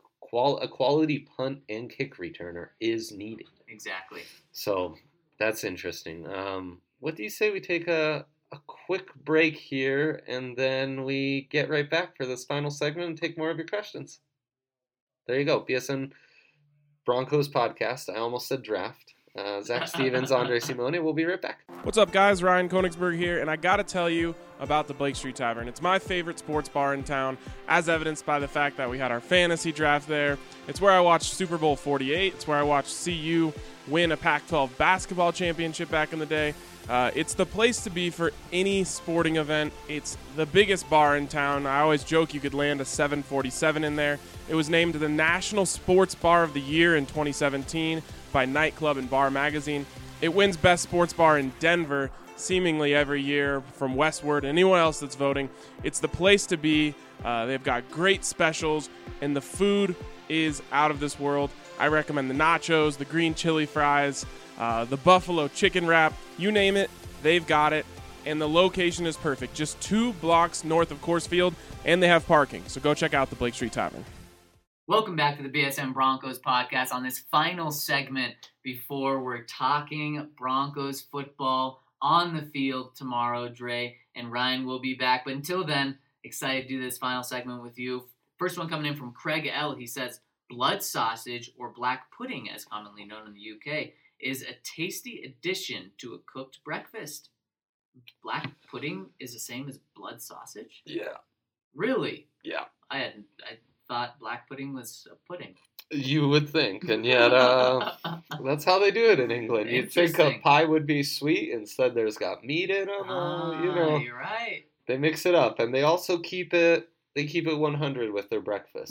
quality punt and kick returner is needed.
Exactly.
So that's interesting. What do you say we take a quick break here and then we get right back for this final segment and take more of your questions? There you go. BSN Broncos podcast. I almost said draft. Zach Stevens, Andre Simone. We'll be right back.
What's up, guys? Ryan Koenigsberg here, and I got to tell you about the Blake Street Tavern. It's my favorite sports bar in town, as evidenced by the fact that we had our fantasy draft there. It's where I watched Super Bowl 48. It's where I watched CU win a Pac-12 basketball championship back in the day. It's the place to be for any sporting event. It's the biggest bar in town. I always joke you could land a 747 in there. It was named the National Sports Bar of the Year in 2017 by Nightclub and Bar Magazine. It wins Best Sports Bar in Denver seemingly every year from Westward. Anyone else that's voting, it's the place to be. They've got great specials, and the food is out of this world. I recommend the nachos, the green chili fries, the buffalo chicken wrap, you name it, they've got it. And the location is perfect, just 2 blocks north of Coors Field, and they have parking. So go check out the Blake Street Tavern.
Welcome back to the BSN Broncos podcast on this final segment before we're talking Broncos football on the field tomorrow. Dre and Ryan will be back. But until then, excited to do this final segment with you. First one coming in from Craig L. He says, blood sausage, or black pudding as commonly known in the UK, is a tasty addition to a cooked breakfast. Black pudding is the same as blood sausage?
Yeah.
Really?
Yeah.
I thought black pudding was a pudding.
You would think, and yet that's how they do it in England. You'd think a pie would be sweet, instead there's got meat in them.
You're right.
They mix it up, and they also keep it 100 with their breakfast.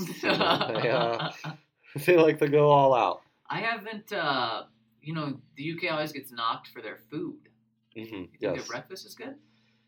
They like to go all out.
I haven't, the UK always gets knocked for their food.
Mm-hmm.
You think their breakfast is good?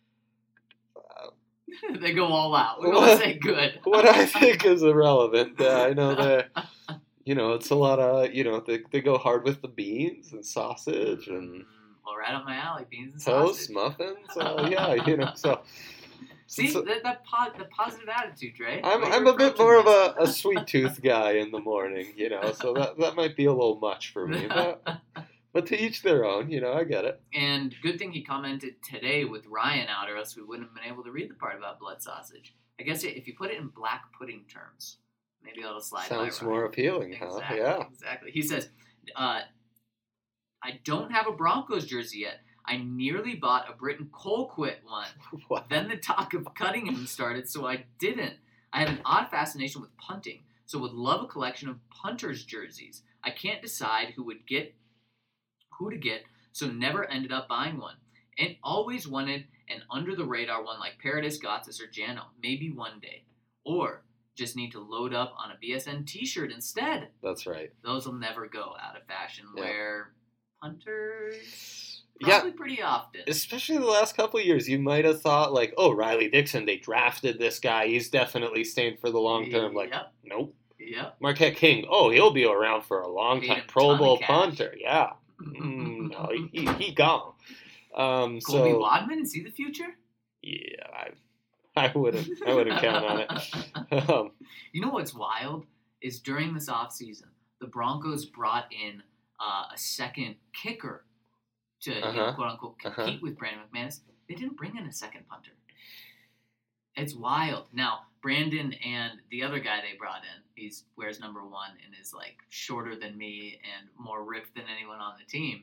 They go all out. We don't say good.
What I think is irrelevant. I know that, it's a lot of, they go hard with the beans and sausage and...
Well, right up my alley, beans and
toast,
sausage.
muffins, so...
See, the positive attitude, Dre.
I'm a bit more of a sweet tooth guy in the morning, so that might be a little much for me, but to each their own, I get it.
And good thing he commented today with Ryan out, or else we wouldn't have been able to read the part about blood sausage. I guess if you put it in black pudding terms, maybe it'll slide by Ryan.
Sounds more appealing,
exactly,
huh? Yeah.
Exactly. He says, I don't have a Broncos jersey yet. I nearly bought a Britton Colquitt one.
Wow.
Then the talk of cutting him started, so I didn't. I have an odd fascination with punting, so would love a collection of punters' jerseys. I can't decide who to get, so never ended up buying one. And always wanted an under-the-radar one like Paradis, Gotsis, or Jano. Maybe one day. Or just need to load up on a BSN t-shirt instead.
That's right.
Those will never go out of fashion.
Yeah.
Where punters probably pretty often.
Especially the last couple of years, you might have thought like, oh, Riley Dixon, they drafted this guy. He's definitely staying for the long term. Like, nope.
Yep.
Marquette King, oh, he'll be around for a long
Paid
time.
him a
Pro
ton of
Bowl
cash.
punter, yeah. No, he gone.
Colby
So
Wadman, is he the future?
yeah, I wouldn't count on it.
You know what's wild is during this offseason, the Broncos brought in a second kicker to quote unquote compete with Brandon McManus. They didn't bring in a second punter. It's wild. Now Brandon and the other guy they brought in, he wears number 1 and is like shorter than me and more ripped than anyone on the team.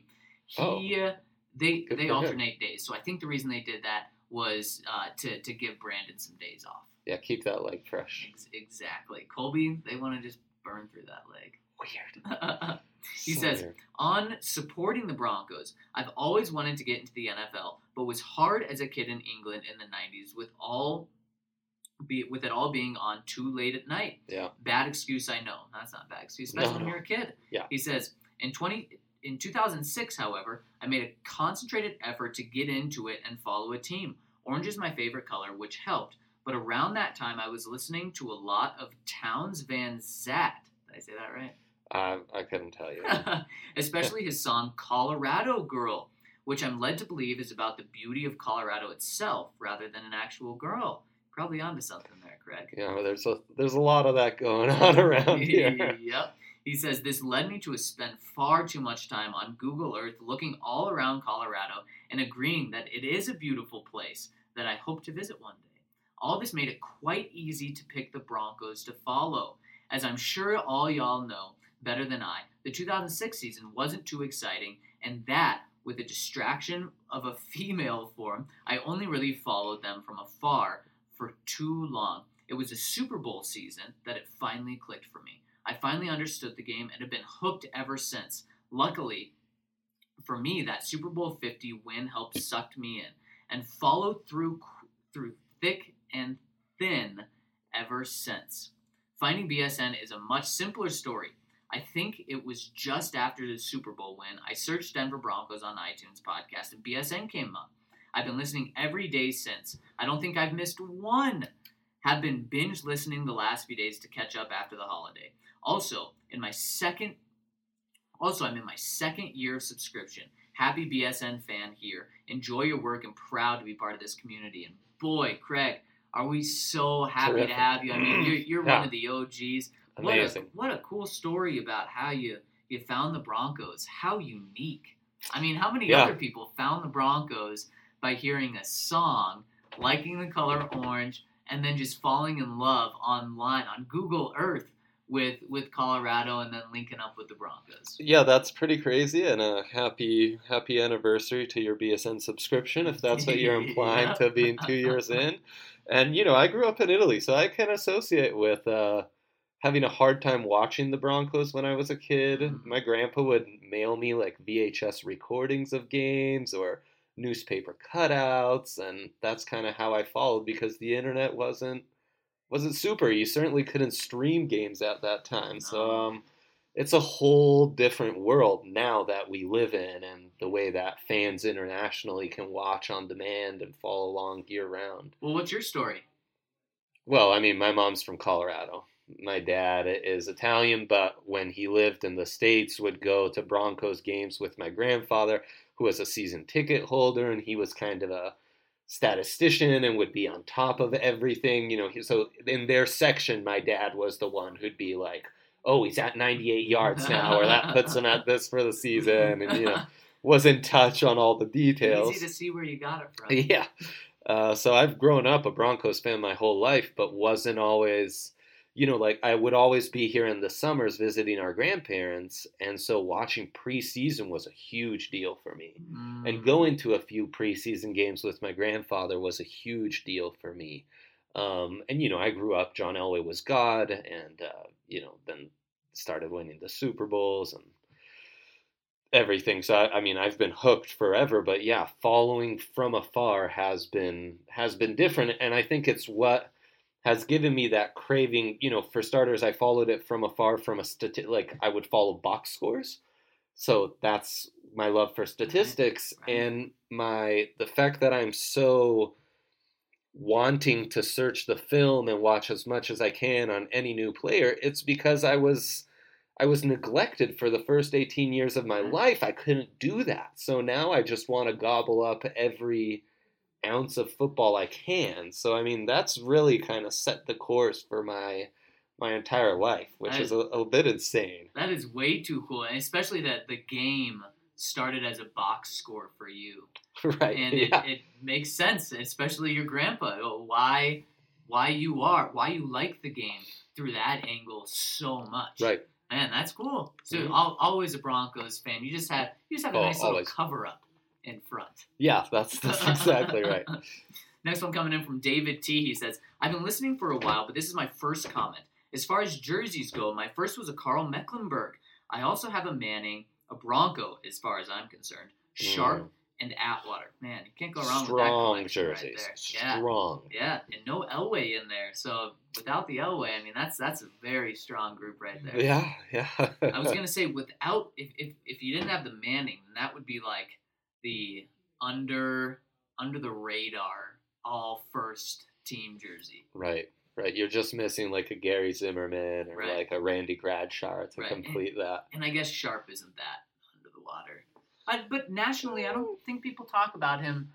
They alternate days. So I think the reason they did that was to give Brandon some days off.
Yeah, keep that leg fresh.
Exactly. Colby, they want to just burn through that leg.
Weird.
He says, on supporting the Broncos, I've always wanted to get into the NFL, but was hard as a kid in England in the 90s with it all being on too late at night.
Yeah.
Bad excuse, I know. That's not a bad excuse, especially when you're a kid.
Yeah.
He says, in 2006, however, I made a concentrated effort to get into it and follow a team. Orange is my favorite color, which helped. But around that time, I was listening to a lot of Townes Van Zandt. Did I say that right?
I couldn't tell you.
Especially his song Colorado Girl, which I'm led to believe is about the beauty of Colorado itself rather than an actual girl. Probably onto something there, Craig.
Yeah, there's a lot of that going on around here.
Yep. He says, this led me to spend far too much time on Google Earth looking all around Colorado and agreeing that it is a beautiful place that I hope to visit one day. All this made it quite easy to pick the Broncos to follow. As I'm sure all y'all know better than I, the 2006 season wasn't too exciting, and that, with the distraction of a female form, I only really followed them from afar for too long. It was a Super Bowl season that it finally clicked for me. I finally understood the game and have been hooked ever since. Luckily, for me, that Super Bowl 50 win helped suck me in and followed through thick and thin ever since. Finding BSN is a much simpler story. I think it was just after the Super Bowl win, I searched Denver Broncos on iTunes podcast and BSN came up. I've been listening every day since. I don't think I've missed one. Have been binge listening the last few days to catch up after the holiday. Also, I'm in my second year of subscription. Happy BSN fan here. Enjoy your work and proud to be part of this community. And boy, Craig, are we so happy to have you. I mean, you're one of the OGs.
Amazing.
What a cool story about how you found the Broncos. How unique. I mean, how many other people found the Broncos by hearing a song, liking the color orange, and then just falling in love online on Google Earth with Colorado and then linking up with the Broncos.
Yeah, that's pretty crazy, and a happy anniversary to your BSN subscription, if that's what you're implying to being 2 years in. And, I grew up in Italy, so I can associate with having a hard time watching the Broncos when I was a kid. Mm-hmm. My grandpa would mail me, like, VHS recordings of games or newspaper cutouts, and that's kind of how I followed because the internet wasn't super. You certainly couldn't stream games at that time. No. So it's a whole different world now that we live in, and the way that fans internationally can watch on demand and follow along year round.
Well, what's your story?
Well, I mean, my mom's from Colorado. My dad is Italian, but when he lived in the States, would go to Broncos games with my grandfather, who was a season ticket holder, and he was kind of a statistician and would be on top of everything. So in their section, my dad was the one who'd be like, oh, he's at 98 yards now, or that puts him at this for the season, and, was in touch on all the details.
Easy to see where you got it from.
Yeah. So I've grown up a Broncos fan my whole life, but wasn't always, like I would always be here in the summers visiting our grandparents, and so watching preseason was a huge deal for me. And going to a few preseason games with my grandfather was a huge deal for me. And I grew up, John Elway was God, and then started winning the Super Bowls and everything. So I've been hooked forever, but yeah, following from afar has been different, and I think it's what has given me that craving. For starters, I followed it from afar from like I would follow box scores. So that's my love for statistics, and the fact that I'm so wanting to search the film and watch as much as I can on any new player. It's because I was neglected for the first 18 years of my life. I couldn't do that. So now I just want to gobble up every ounce of football I can. So that's really kind of set the course for my entire life, which is a bit insane.
That is way too cool, and especially that the game started as a box score for you.
Right.
And it makes sense, especially your grandpa. Why you like the game through that angle so much.
Right.
Man, that's cool. So always a Broncos fan. You just have a nice little cover up in front.
Yeah, that's exactly right.
Next one coming in from David T. He says, I've been listening for a while, but this is my first comment. As far as jerseys go, my first was a Carl Mecklenburg. I also have a Manning, a Bronco, as far as I'm concerned, Sharp, and Atwater. Man, you can't go wrong with that collection
jerseys.
Right there.
Strong.
Yeah, and no Elway in there. So without the Elway, that's a very strong group right there.
Yeah.
I was gonna say if you didn't have the Manning, then that would be like the under the radar all first team jersey.
Right. You're just missing like a Gary Zimmerman or like a Randy Bradshaw to complete that.
And I guess Sharp isn't that under the water. But nationally, I don't think people talk about him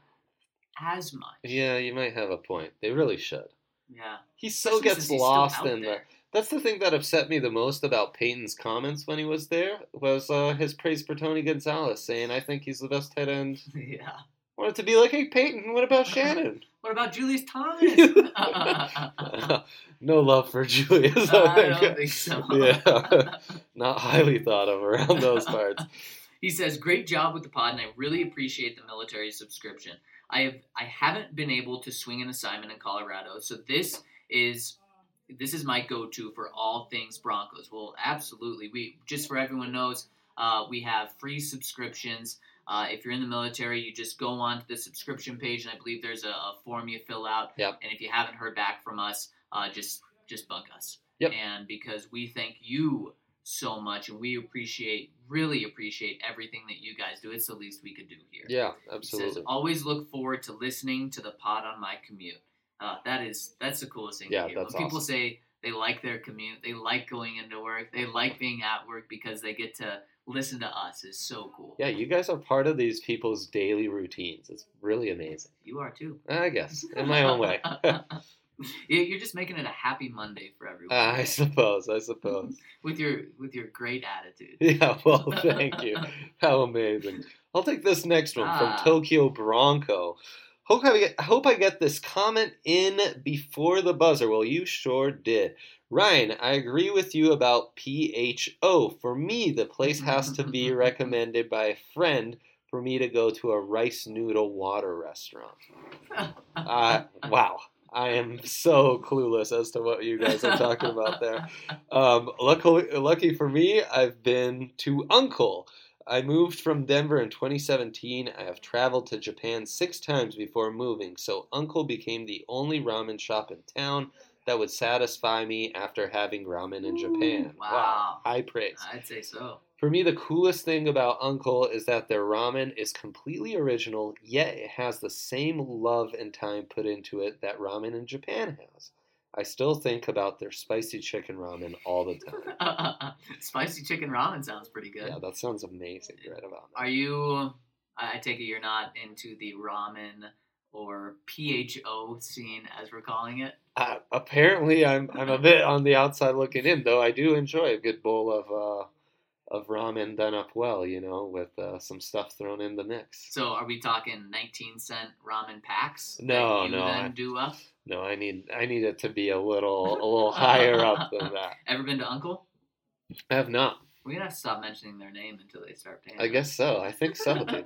as much.
Yeah, you might have a point. They really should.
Yeah.
He so gets lost in the... That's the thing that upset me the most about Peyton's comments when he was there, was his praise for Tony Gonzalez, saying, I think he's the best tight end.
Yeah.
Wanted to be like, hey, Peyton, what about Shannon?
What about Julius Thomas?
No love for Julius.
I don't think so.
Yeah. Not highly thought of around those parts.
He says, great job with the pod, and I really appreciate the military subscription. I haven't been able to swing an assignment in Colorado, so this is my go-to for all things Broncos. Well, absolutely. We just for everyone knows, we have free subscriptions. If you're in the military, you just go on to the subscription page, and I believe there's a form you fill out.
Yep.
And if you haven't heard back from us, just bug us.
Yep.
And because we thank you so much, and we really appreciate everything that you guys do. It's the least we could do here.
Yeah, absolutely.
He says, always look forward to listening to the pod on my commute. That's the coolest thing to hear.
That's
when people
awesome.
Say they like their commute, they like going into work, they like being at work because they get to listen to us is so cool.
Yeah, you guys are part of these people's daily routines. It's really amazing.
You are too.
I guess, in my own way.
You're just making it a happy Monday for everyone.
I suppose.
With your great attitude.
Yeah, well, thank you. How amazing. I'll take this next one from Tokyo Bronco. Hope I get this comment in before the buzzer. Well, you sure did. Ryan, I agree with you about PHO. For me, the place has to be recommended by a friend for me to go to a rice noodle water restaurant. Wow. I am so clueless as to what you guys are talking about there. Lucky for me, I've been to Uncle. I moved from Denver in 2017. I have traveled to Japan 6 times before moving, so Uncle became the only ramen shop in town that would satisfy me after having ramen in Japan.
Wow.
High praise.
I'd say so.
For me, the coolest thing about Uncle is that their ramen is completely original, yet it has the same love and time put into it that ramen in Japan has. I still think about their spicy chicken ramen all the time.
Spicy chicken ramen sounds pretty good.
Yeah, that sounds amazing right about that.
Are you, I take it you're not into the ramen or PHO scene, as we're calling it?
Apparently, I'm a bit on the outside looking in, though I do enjoy a good bowl of ramen done up well, with some stuff thrown in the mix.
So are we talking 19-cent ramen packs?
No,
that you
no.
Then do up?
No, I need it to be a little higher up than that.
Ever been to Uncle?
I have not.
We're gonna have to stop mentioning their name until they start paying.
I guess so. I think so, dude.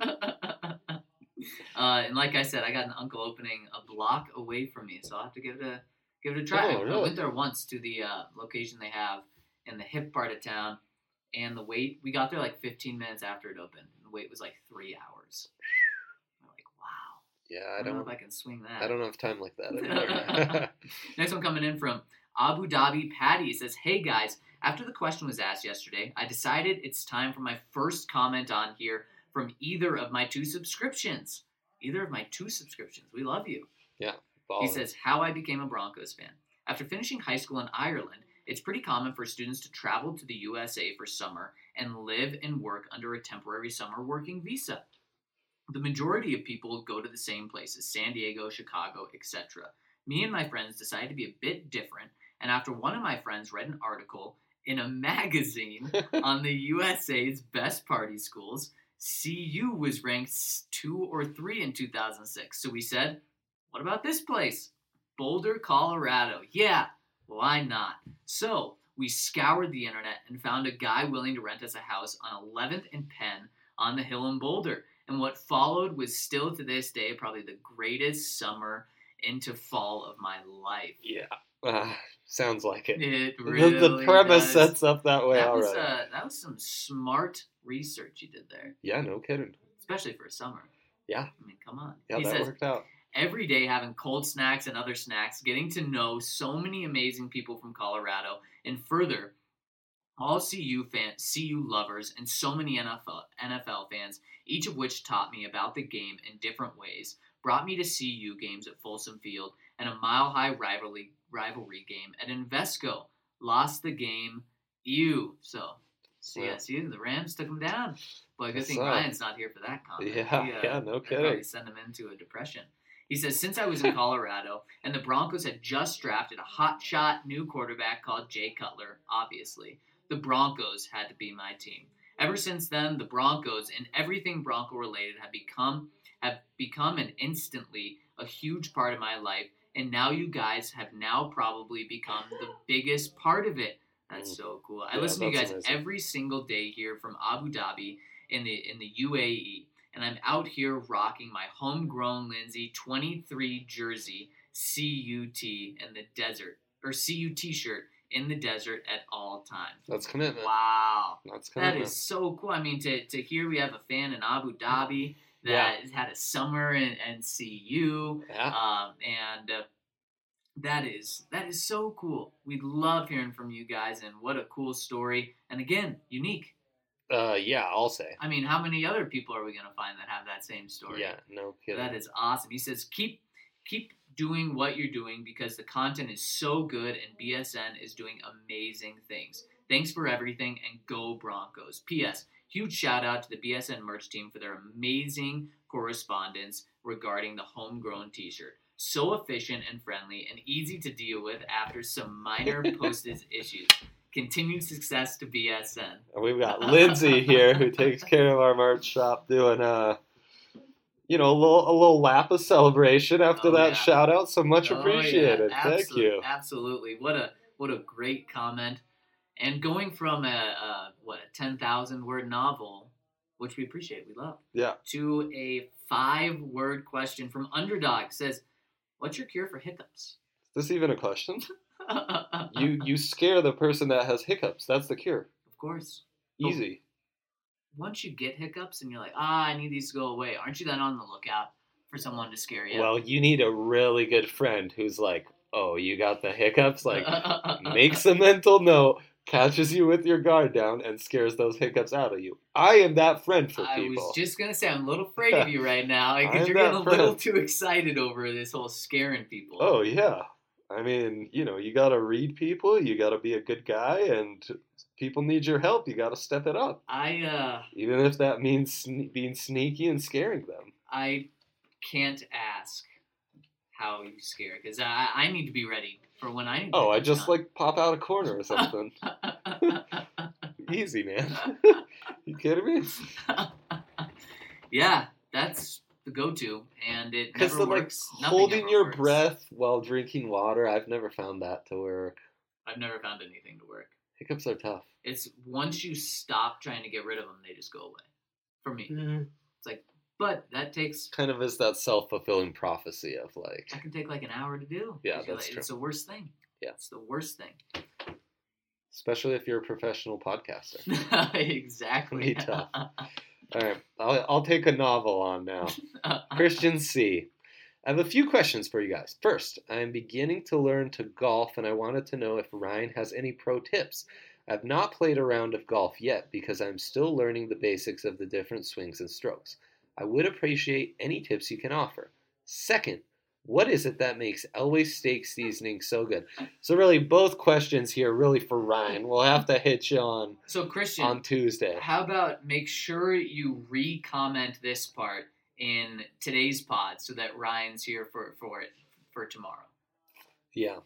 And like I said, I got an Uncle opening a block away from me, so I'll have to give it a try.
Oh, really?
I went there once to the location they have in the hip part of town, and the wait, we got there like 15 minutes after it opened, and the wait was like 3 hours. We're like, wow.
Yeah,
I don't know if I can swing that.
I don't have time like that anymore.
Next one coming in from Abu Dhabi Patty says, "Hey guys, after the question was asked yesterday, I decided it's time for my first comment on here from either of my two subscriptions. Either of my two subscriptions. We love you."
Yeah.
He says, "How I became a Broncos fan. After finishing high school in Ireland, it's pretty common for students to travel to the USA for summer and live and work under a temporary summer working visa. The majority of people go to the same places, San Diego, Chicago, etc. Me and my friends decided to be a bit different, and after one of my friends read an article in a magazine on the USA's best party schools, CU was ranked 2 or 3 in 2006. So we said, what about this place? Boulder, Colorado. Yeah, why not? So we scoured the internet and found a guy willing to rent us a house on 11th and Penn on the hill in Boulder. And what followed was still to this day probably the greatest summer into fall of my life.
Yeah. Sounds like it.
It really
the premise
does.
sets up that way already.
That was some smart research you did there.
Yeah, no kidding.
Especially for summer.
Yeah.
I mean, come on.
Yeah,
He
that
says,
worked out.
every day having cold snacks and other snacks, getting to know so many amazing people from Colorado, and further, all CU lovers, and so many NFL fans, each of which taught me about the game in different ways, brought me to CU games at Folsom Field and a mile-high rivalry game at Invesco. Lost the game, So, the Rams took them down. Boy, good thing Ryan's not here for that comment.
Yeah, no kidding.
Probably send him into a depression. He says, since I was in Colorado, and the Broncos had just drafted a hotshot new quarterback called Jay Cutler, obviously, the Broncos had to be my team. Ever since then, the Broncos and everything Bronco-related have become and instantly a huge part of my life, and now you guys have now probably become the biggest part of it. That's so cool. I listen to you guys every single day here from Abu Dhabi in the UAE, and I'm out here rocking my homegrown Lindsay 23 jersey CUT in the desert, or CU t-shirt in the desert at all times.
That's commitment.
Wow.
That's commitment.
That is so cool. I mean, to hear we have a fan in Abu Dhabi that has had a summer in CU, and that is so cool. We love hearing from you guys, and what a cool story. And again, unique.
I'll say.
I mean, how many other people are we going to find that have that same story?
Yeah, no kidding.
That is awesome. He says, keep doing what you're doing because the content is so good and BSN is doing amazing things. Thanks for everything, and go Broncos. P.S. Huge shout out to the BSN merch team for their amazing correspondence regarding the homegrown t-shirt. So efficient and friendly and easy to deal with after some minor postage issues. Continued success to BSN.
And we've got Lindsay here who takes care of our merch shop doing a little lap of celebration after that shout out. So much appreciated. Thank you.
Absolutely. What a great comment. And going from a 10,000 word novel, which we appreciate, we love, to a 5-word question from Underdog. Says, what's your cure for hiccups?
Is this even a question? You scare the person that has hiccups. That's the cure.
Of course.
Easy.
Once you get hiccups and you're like, I need these to go away, aren't you then on the lookout for someone to scare you?
Well, you need a really good friend who's like, oh, you got the hiccups? Like, makes a mental note, catches you with your guard down, and scares those hiccups out of you. I am that friend for people.
I was just going to say, I'm a little afraid of you right now because you're getting a little too excited over this whole scaring people.
Oh, yeah. I mean, you got to read people, you got to be a good guy, and people need your help. You got to step it up. Even if that means being sneaky and scaring them.
I can't ask how you scare, because I need to be ready for when I need to.
I just pop out a corner or something. Easy, man. You kidding me?
Yeah, that's the go-to, and it
Because
never
the
works. Nothing
holding
ever
your
works.
breath while drinking water, I've never found that to work.
I've never found anything to work.
Hiccups are tough.
It's once you stop trying to get rid of them, they just go away. For me,
Mm.
it's like, but that takes.
Kind of is that self-fulfilling prophecy of like,
That can take like an hour to do.
Yeah,
'Cause you're
that's
like,
true.
It's the worst thing.
Yeah.
It's the worst thing.
especially if you're a professional podcaster.
Exactly.
Be tough. All right, I'll take a novel on now. Christian C. I have a few questions for you guys. First, I am beginning to learn to golf, and I wanted to know if Ryan has any pro tips. I've not played a round of golf yet because I'm still learning the basics of the different swings and strokes. I would appreciate any tips you can offer. Second, what is it that makes Elway steak seasoning so good? So really, both questions here really for Ryan. We'll have to hit you on
So Christian,
on Tuesday.
how about make sure you re-comment this part in today's pod so that Ryan's here for it for tomorrow.
Yeah.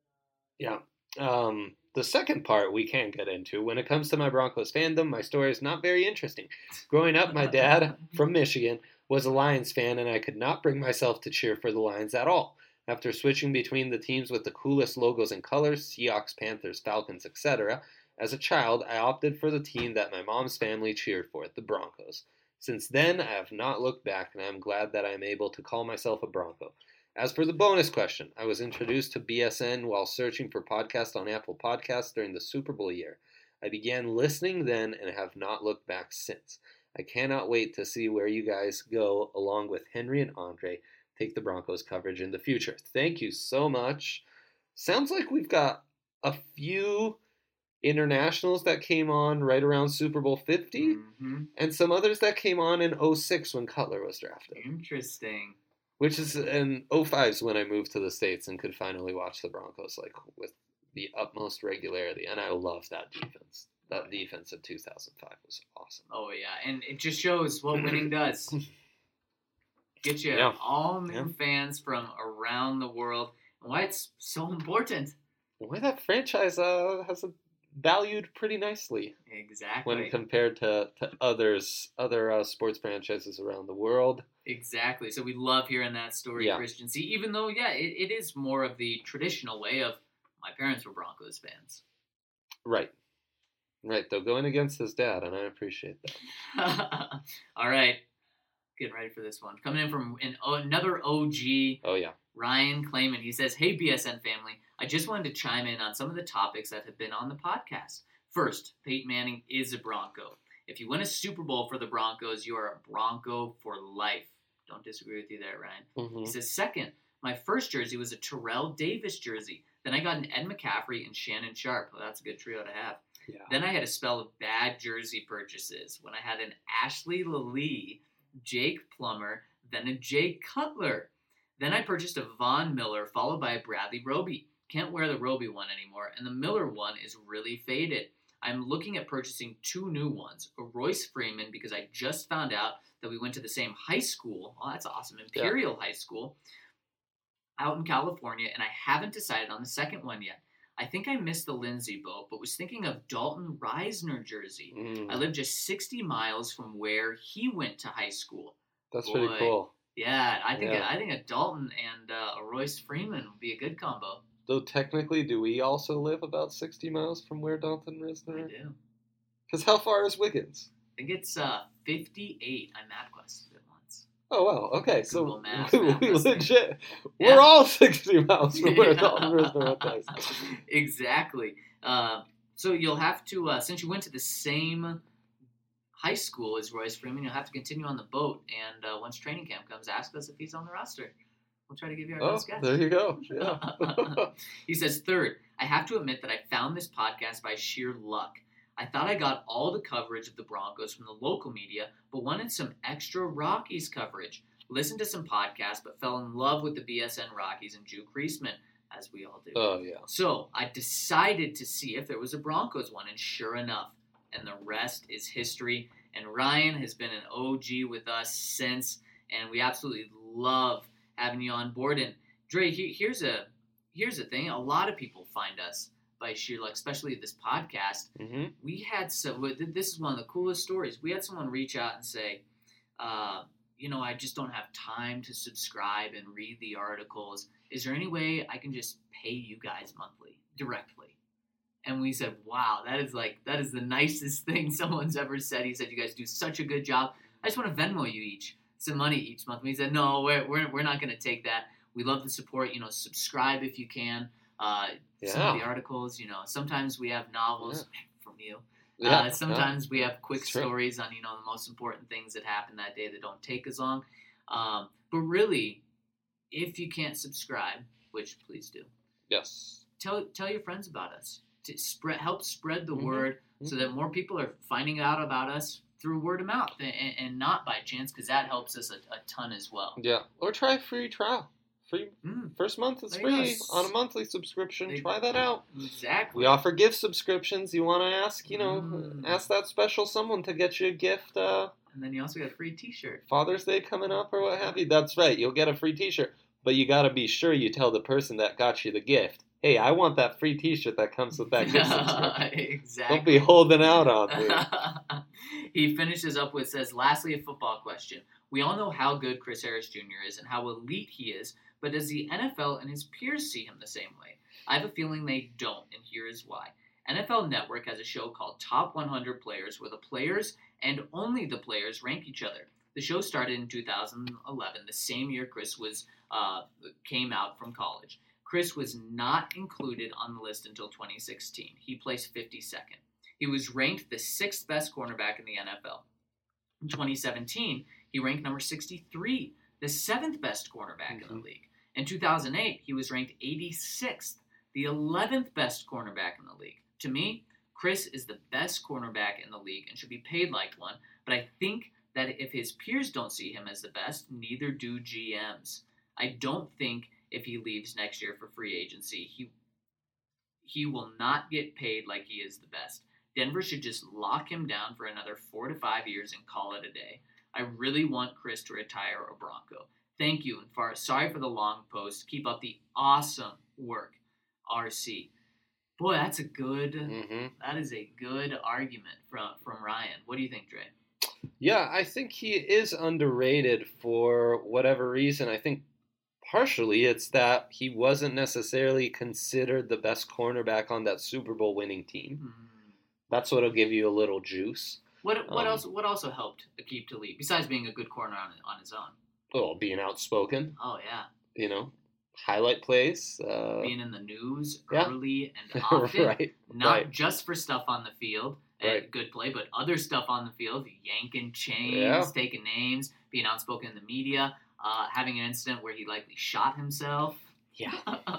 The second part we can get into. When it comes to my Broncos fandom, my story is not very interesting. Growing up, my dad, from Michigan, was a Lions fan, and I could not bring myself to cheer for the Lions at all. After switching between the teams with the coolest logos and colors, Seahawks, Panthers, Falcons, etc., as a child, I opted for the team that my mom's family cheered for, the Broncos. Since then, I have not looked back, and I am glad that I am able to call myself a Bronco. As for the bonus question, I was introduced to BSN while searching for podcasts on Apple Podcasts during the Super Bowl year. I began listening then and have not looked back since. I cannot wait to see where you guys go, along with Henry and Andre, take the Broncos coverage in the future. Thank you so much. Sounds like we've got a few internationals that came on right around Super Bowl 50, and some others that came on in 06 when Cutler was drafted.
Interesting.
Which is in 05's when I moved to the States and could finally watch the Broncos like with the utmost regularity, and I love that defense. That defense in 2005 was awesome.
Oh yeah, and it just shows what winning does. Get you all new fans from around the world. And why it's so important.
Why that franchise has valued pretty nicely.
Exactly.
When compared to other sports franchises around the world.
Exactly. So we love hearing that story, Christian. See, even though, it is more of the traditional way of my parents were Broncos fans.
Right. Though going against his dad, and I appreciate that.
All right. Getting ready for this one. Coming in from another OG.
Oh, yeah.
Ryan Clayman. He says, "Hey, BSN family. I just wanted to chime in on some of the topics that have been on the podcast. First, Peyton Manning is a Bronco. If you win a Super Bowl for the Broncos, you are a Bronco for life." Don't disagree with you there, Ryan.
Mm-hmm.
He says, "Second, my first jersey was a Terrell Davis jersey. Then I got an Ed McCaffrey and Shannon Sharp." Well, that's a good trio to have.
Yeah.
Then I had a spell of bad jersey purchases when I had an Ashley Lee, Jake Plummer, then a Jay Cutler. Then I purchased a Von Miller, followed by a Bradley Roby. Can't wear the Roby one anymore, and the Miller one is really faded. I'm looking at purchasing 2 new ones. A Royce Freeman, because I just found out that we went to the same high school. Oh, that's awesome. Imperial High School out in California, and I haven't decided on the second one yet. I think I missed the Lindsay boat, but was thinking of Dalton Reisner jersey. I live just 60 miles from where he went to high school.
That's pretty cool.
Yeah, I think a Dalton and a Royce Freeman would be a good combo.
Though technically, do we also live about 60 miles from where Dalton Reisner?
I do.
Because how far is Wiggins?
I think it's 58. I MapQuested it once.
Oh, wow. Okay, so
Maps,
we legit, we're all 60 miles from where Dalton Reisner went to high school.
Exactly. So you'll have to, since you went to the same high school as Royce Freeman, you'll have to continue on the boat. And once training camp comes, ask us if he's on the roster. We'll try to give you our best guess.
There you go. Yeah.
He says, "Third, I have to admit that I found this podcast by sheer luck. I thought I got all the coverage of the Broncos from the local media, but wanted some extra Rockies coverage. Listened to some podcasts, but fell in love with the BSN Rockies and Juke Reisman, as we all do.
Oh, yeah.
So I decided to see if there was a Broncos one, and sure enough, and the rest is history. And Ryan has been an OG with us since, and we absolutely love having you on board. And Dre, here's a thing. A lot of people find us by sheer luck, especially this podcast.
Mm-hmm.
We had this is one of the coolest stories. We had someone reach out and say, I just don't have time to subscribe and read the articles. Is there any way I can just pay you guys monthly directly? And we said, wow, that is the nicest thing someone's ever said. He said, you guys do such a good job. I just want to Venmo you some money each month. And we said, no, we're not going to take that. We love the support. Subscribe if you can. Some of the articles, sometimes we have novels from you. Sometimes we have quick stories on, the most important things that happen that day that don't take as long. But really, if you can't subscribe, which please do.
Yes.
Tell your friends about us. To help spread the word so that more people are finding out about us through word of mouth and not by chance, because that helps us a ton as well.
Yeah. Or try a free trial. First month is free on a monthly subscription. Try that out.
Exactly.
We offer gift subscriptions. You want to ask, ask that special someone to get you a gift.
And then you also get a free T-shirt.
Father's Day coming up or what have you. That's right. You'll get a free T-shirt. But you got to be sure you tell the person that got you the gift, hey, I want that free T-shirt that comes with that gift subscription.
Exactly.
Don't be holding out on me.
He finishes up with, says, lastly, a football question. We all know how good Chris Harris Jr. is and how elite he is, but does the NFL and his peers see him the same way? I have a feeling they don't, and here is why. NFL Network has a show called Top 100 Players, where the players and only the players rank each other. The show started in 2011, the same year Chris came out from college. Chris was not included on the list until 2016. He placed 52nd. He was ranked the 6th best cornerback in the NFL. In 2017, he ranked number 63, the 7th best cornerback in the league. In 2008, he was ranked 86th, the 11th best cornerback in the league. To me, Chris is the best cornerback in the league and should be paid like one, but I think that if his peers don't see him as the best, neither do GMs. I don't think if he leaves next year for free agency, he will not get paid like he is the best. Denver should just lock him down for another 4 to 5 years and call it a day. I really want Chris to retire a Bronco. Thank you, and sorry for the long post. Keep up the awesome work, RC. Boy, that is a good argument from Ryan. What do you think, Dre?
Yeah, I think he is underrated for whatever reason. I think partially it's that he wasn't necessarily considered the best cornerback on that Super Bowl winning team. Mm-hmm. That's what'll give you a little juice.
What also helped Aqib Talib, besides being a good corner on his own?
Oh, being outspoken.
Oh, yeah.
Highlight plays.
Being in the news early and often.
Right.
Not just for stuff on the field, good play, but other stuff on the field, yanking chains, taking names, being outspoken in the media, having an incident where he likely shot himself.
Yeah.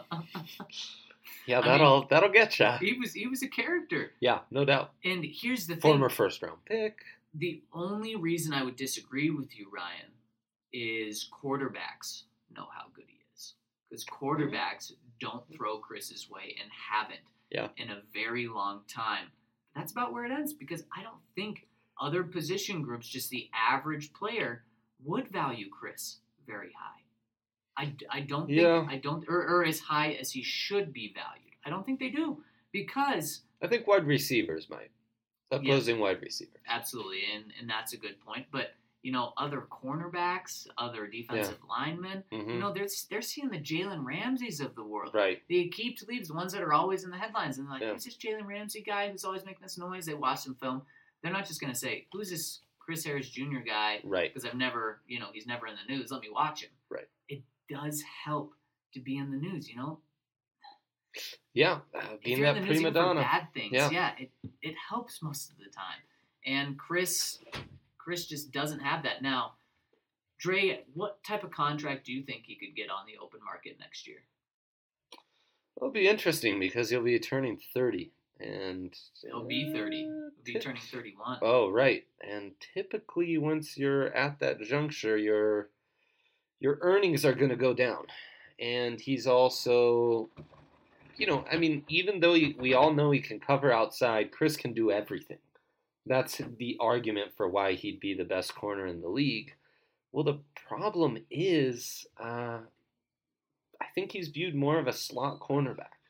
Yeah, that'll get you.
He was a character.
Yeah, no doubt.
And here's the thing.
Former first-round pick.
The only reason I would disagree with you, Ryan, is quarterbacks know how good he is. Because quarterbacks don't throw Chris's way and haven't in a very long time. That's about where it ends, because I don't think other position groups, just the average player, would value Chris very high. I don't think or as high as he should be valued. I don't think they do, because
I think wide receivers might. Opposing wide receivers.
Absolutely, and that's a good point. But other cornerbacks, other defensive linemen, they're seeing the Jalen Ramseys of the world.
Right.
The Aqib Talibs, the ones that are always in the headlines, and they're like, who's this Jalen Ramsey guy who's always making this noise? They watch some film. They're not just going to say, who's this Chris Harris Jr. guy?
Right.
Because I've never, he's never in the news. Let me watch him.
Right.
It does help to be in the news,
Yeah, being that prima donna.
Bad things, it helps most of the time. And Chris just doesn't have that. Now, Dre, what type of contract do you think he could get on the open market next year?
It'll be interesting because he'll be turning 30. And
he'll be 30. He'll be turning 31.
Oh, right. And typically once you're at that juncture, your earnings are going to go down. And he's also, even though we all know he can cover outside, Chris can do everything. That's the argument for why he'd be the best corner in the league. Well, the problem is, I think he's viewed more of a slot cornerback.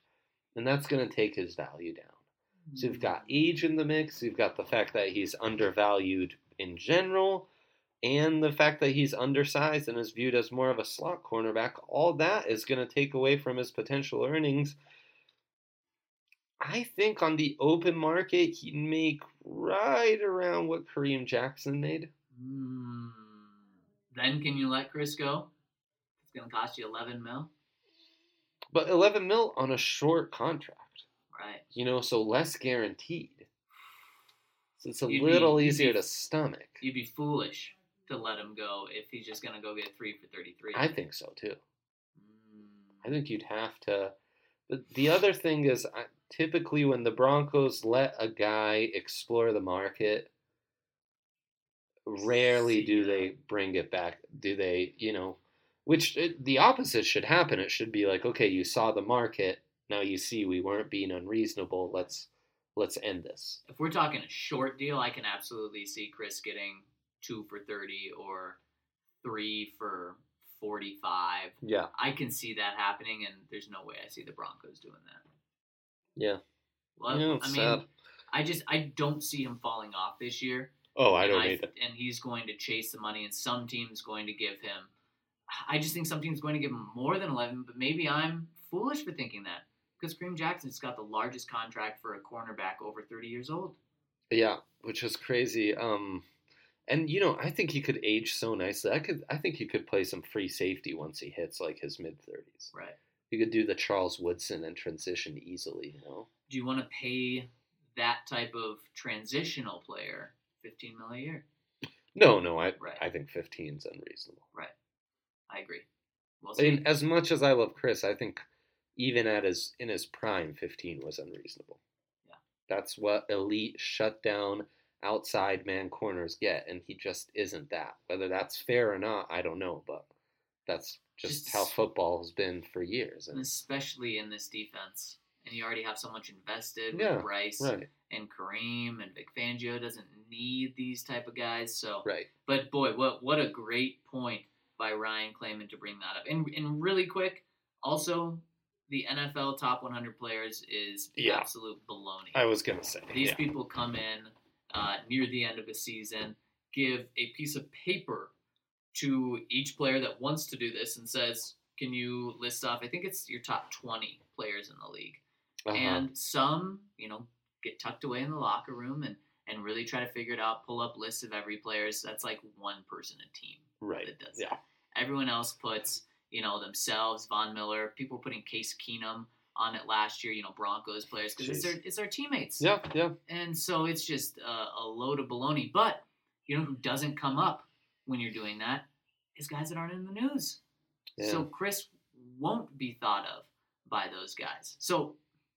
And that's going to take his value down. So you've got age in the mix. You've got the fact that he's undervalued in general, and the fact that he's undersized and is viewed as more of a slot cornerback. All that is going to take away from his potential earnings. I think on the open market, he'd make right around what Kareem Jackson made.
Then can you let Chris go? It's going to cost you $11 million.
But $11 million on a short contract.
Right.
So less guaranteed. So it's a little easier to stomach.
You'd be foolish to let him go if he's just going to go get 3 for 33.
I think so, too. I think you'd have to. The other thing is, typically when the Broncos let a guy explore the market, rarely do they bring it back. Do they, which the opposite should happen. It should be like, okay, you saw the market. Now you see we weren't being unreasonable. Let's end this.
If we're talking a short deal, I can absolutely see Chris getting 2 for 30 or 3 for 45.
Yeah.
I can see that happening, and there's no way I see the Broncos doing that.
Yeah.
Well, I don't see him falling off this year.
Oh, I don't either.
And he's going to chase the money, and some team's going to give him. I just think some team's going to give him more than 11, but maybe I'm foolish for thinking that. Because Kareem Jackson's got the largest contract for a cornerback over 30 years old.
Yeah, which is crazy. And I think he could age so nicely. I think he could play some free safety once he hits like his mid-30s.
Right.
He could do the Charles Woodson and transition easily.
Do you want to pay that type of transitional player $15 million a year?
No. I think 15 is unreasonable.
Right. I agree. Well,
I mean, as much as I love Chris, I think even in his prime, 15 was unreasonable.
Yeah.
That's what elite shutdown outside man corners get, and he just isn't that. Whether that's fair or not, I don't know, but that's just how football has been for years.
And especially in this defense. And you already have so much invested with Bryce and Kareem, and Vic Fangio doesn't need these type of guys. So,
right.
But boy, what a great point by Ryan Clayman to bring that up. And really quick, also, the NFL top 100 players is absolute baloney.
I was going to say.
These people come in near the end of a season, give a piece of paper to each player that wants to do this and says, can you list off, I think it's your top 20 players in the league.
Uh-huh.
And some, get tucked away in the locker room and really try to figure it out, pull up lists of every player. So that's like one person a team that does that. Everyone else puts themselves, Von Miller. People were putting Case Keenum on it last year, Broncos players, because it's their teammates.
Yeah.
And so it's just a load of baloney. But who doesn't come up when you're doing that is guys that aren't in the news. Yeah. So Chris won't be thought of by those guys. So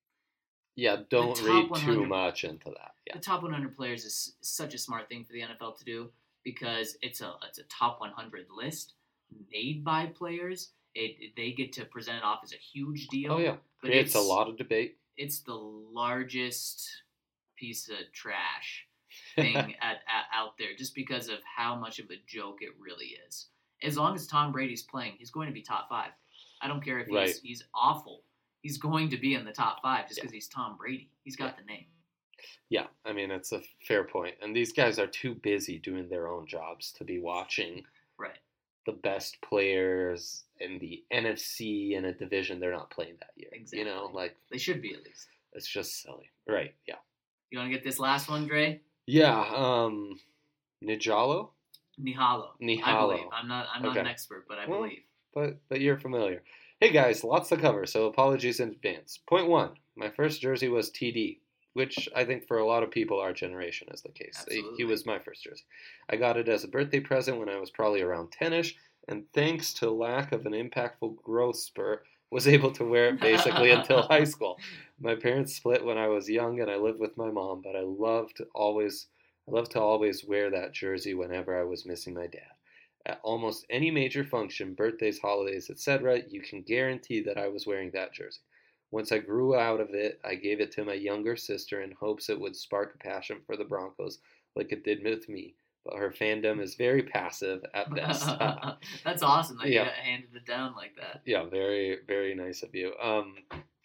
don't read too much into that. Yeah.
The top 100 players is such a smart thing for the NFL to do because it's a top 100 list made by players. They get to present it off as a huge deal.
Oh, yeah.
But
it's a lot of debate.
It's the largest piece of trash thing out there just because of how much of a joke it really is. As long as Tom Brady's playing, he's going to be top 5. I don't care if he's awful. He's going to be in the top 5 just because he's Tom Brady. He's got the name.
Yeah, I mean, it's a fair point. And these guys are too busy doing their own jobs to be watching the best players in the NFC in a division they're not playing that year.
Exactly. They should be at least.
It's just silly. Right, yeah.
You want to get this last one, Dre?
Yeah, Nihalo?
Nihalo. I believe. I'm not an expert, but I believe.
But you're familiar. Hey guys, lots to cover, so apologies in advance. Point 1, my first jersey was TD, which I think for a lot of people our generation is the case.
Absolutely.
He was my first jersey. I got it as a birthday present when I was probably around 10ish, and thanks to lack of an impactful growth spurt, was able to wear it basically until high school. My parents split when I was young, and I lived with my mom, but I loved to always wear that jersey whenever I was missing my dad. At almost any major function, birthdays, holidays, etc., you can guarantee that I was wearing that jersey. Once I grew out of it, I gave it to my younger sister in hopes it would spark a passion for the Broncos like it did with me. But her fandom is very passive at best.
That's awesome that you handed it down like that.
Yeah, very, very nice of you.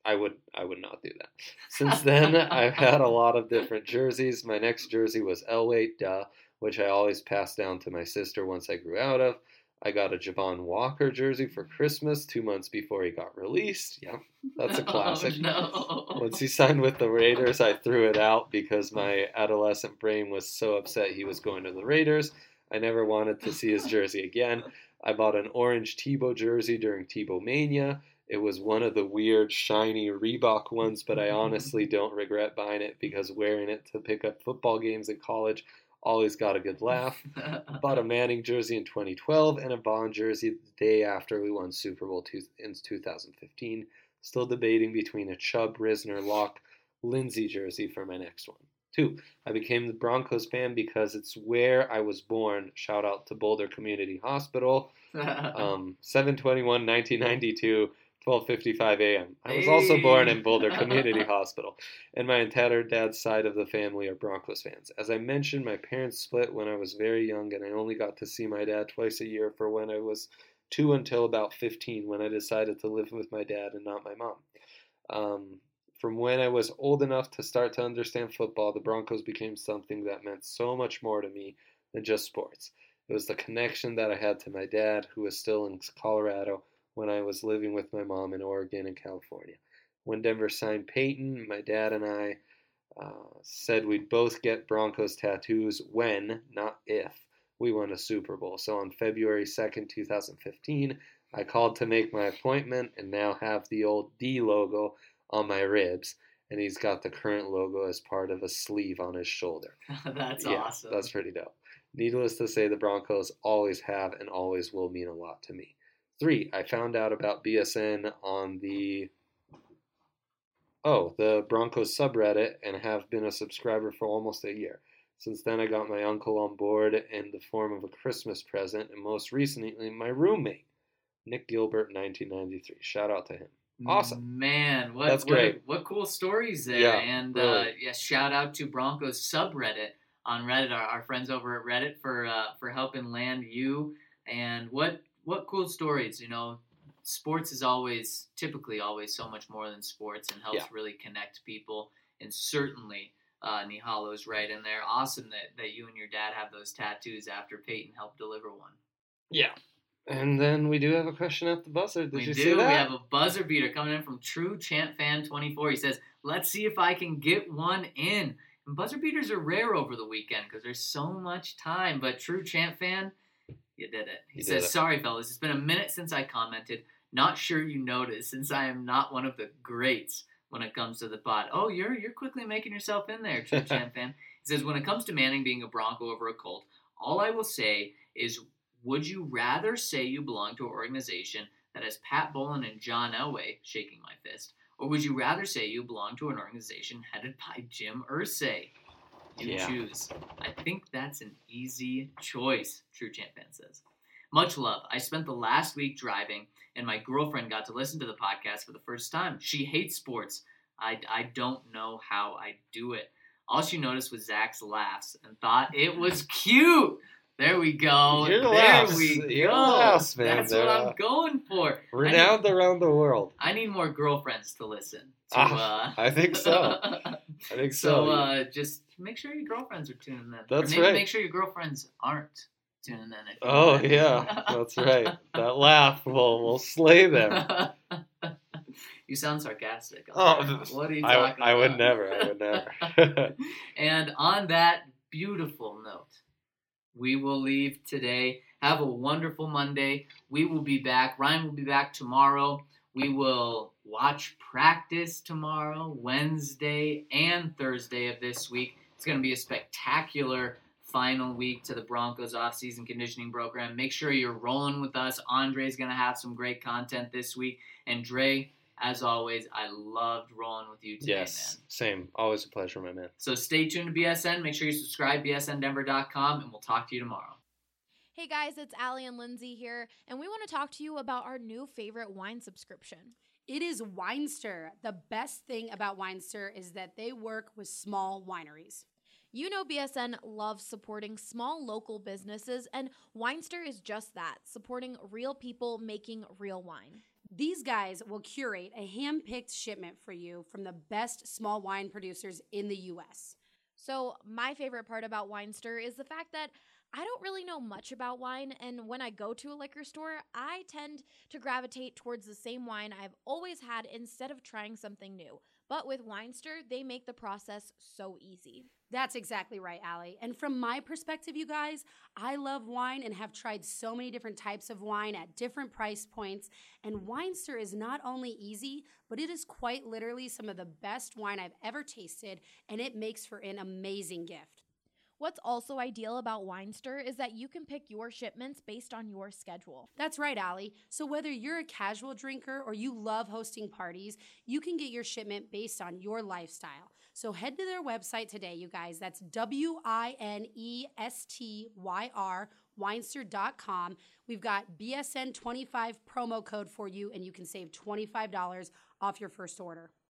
I would not do that. Since then, I've had a lot of different jerseys. My next jersey was Elway, which I always passed down to my sister once I grew out of. I got a Javon Walker jersey for Christmas 2 months before he got released. Yeah, that's a classic.
Oh, no.
Once he signed with the Raiders, I threw it out because my adolescent brain was so upset he was going to the Raiders. I never wanted to see his jersey again. I bought an orange Tebow jersey during Tebow Mania. It was one of the weird, shiny Reebok ones, but I honestly don't regret buying it because wearing it to pick up football games in college always got a good laugh. Bought a Manning jersey in 2012 and a Vaughn jersey the day after we won Super Bowl in 2015. Still debating between a Chubb, Risner, Locke, Lindsey jersey for my next one. 2, I became the Broncos fan because it's where I was born. Shout out to Boulder Community Hospital. 7/21/1992. 12:55 a.m. I was also born in Boulder Community Hospital, and my entire dad's side of the family are Broncos fans. As I mentioned, my parents split when I was very young, and I only got to see my dad twice a year for when I was 2 until about 15, when I decided to live with my dad and not my mom. From when I was old enough to start to understand football, the Broncos became something that meant so much more to me than just sports. It was the connection that I had to my dad, who was still in Colorado, when I was living with my mom in Oregon and California. When Denver signed Peyton, my dad and I said we'd both get Broncos tattoos when, not if, we won a Super Bowl. So on February 2nd, 2015, I called to make my appointment and now have the old D logo on my ribs, and he's got the current logo as part of a sleeve on his shoulder.
That's awesome.
That's pretty dope. Needless to say, the Broncos always have and always will mean a lot to me. 3, I found out about BSN on the Broncos subreddit and have been a subscriber for almost a year. Since then, I got my uncle on board in the form of a Christmas present, and most recently, my roommate, Nick Gilbert, 1993. Shout out to him. Awesome.
Man,
That's great.
What cool stories there.
Yeah,
and
really.
Shout out to Broncos subreddit on Reddit, our friends over at Reddit for helping land you. And what cool stories, sports is typically always so much more than sports and helps really connect people. And certainly Nihalo's right in there. Awesome that you and your dad have those tattoos after Peyton helped deliver one.
Yeah. And then we do have a question at the buzzer. Did you see that?
We have a buzzer beater coming in from True Chant Fan 24. He says, "Let's see if I can get one in." And buzzer beaters are rare over the weekend because there's so much time. But True Chant Fan, you did it. He says, "Sorry, fellas, it's been a minute since I commented. Not sure you noticed, since I am not one of the greats when it comes to the pod." Oh, you're quickly making yourself in there, True Chant Fan. He says, "When it comes to Manning being a Bronco over a Colt, all I will say is, would you rather say you belong to an organization that has Pat Bowlen and John Elway," shaking my fist, "or would you rather say you belong to an organization headed by Jim Irsay? You choose." I think that's an easy choice, True Champ Fan says. "Much love. I spent the last week driving, and my girlfriend got to listen to the podcast for the first time. She hates sports. I don't know how I do it. All she noticed was Zach's laughs and thought it was cute." There we go.
Your
Laughs,
man.
That's what I'm going for.
Renowned around the world.
I need more girlfriends to listen to.
I think so.
So just make sure your girlfriends are tuning in.
That's
maybe
right.
Make sure your girlfriends aren't tuning in.
Oh, yeah. That's right. That laugh will slay them.
You sound sarcastic.
Oh,
what are you talking about?
I would never.
And on that beautiful note, we will leave today. Have a wonderful Monday. We will be back. Ryan will be back tomorrow. We will watch practice tomorrow, Wednesday, and Thursday of this week. It's going to be a spectacular final week to the Broncos off-season conditioning program. Make sure you're rolling with us. Andre's going to have some great content this week. And Dre, as always, I loved rolling with you today, man.
Same. Always a pleasure, my man.
So stay tuned to BSN. Make sure you subscribe, bsndenver.com, and we'll talk to you tomorrow.
Hey guys, it's Allie and Lindsay here, and we want to talk to you about our new favorite wine subscription.
It is Winester. The best thing about Winester is that they work with small wineries.
You know BSN loves supporting small local businesses, and Winester is just that, supporting real people making real wine.
These guys will curate a hand-picked shipment for you from the best small wine producers in the U.S.
So, my favorite part about Winester is the fact that I don't really know much about wine, and when I go to a liquor store, I tend to gravitate towards the same wine I've always had instead of trying something new. But with Winester, they make the process so easy.
That's exactly right, Allie. And from my perspective, you guys, I love wine and have tried so many different types of wine at different price points. And Winester is not only easy, but it is quite literally some of the best wine I've ever tasted, and it makes for an amazing gift.
What's also ideal about Winester is that you can pick your shipments based on your schedule.
That's right, Allie. So whether you're a casual drinker or you love hosting parties, you can get your shipment based on your lifestyle. So head to their website today, you guys. That's WINESTYR, Winester.com. We've got BSN25 promo code for you, and you can save $25 off your first order.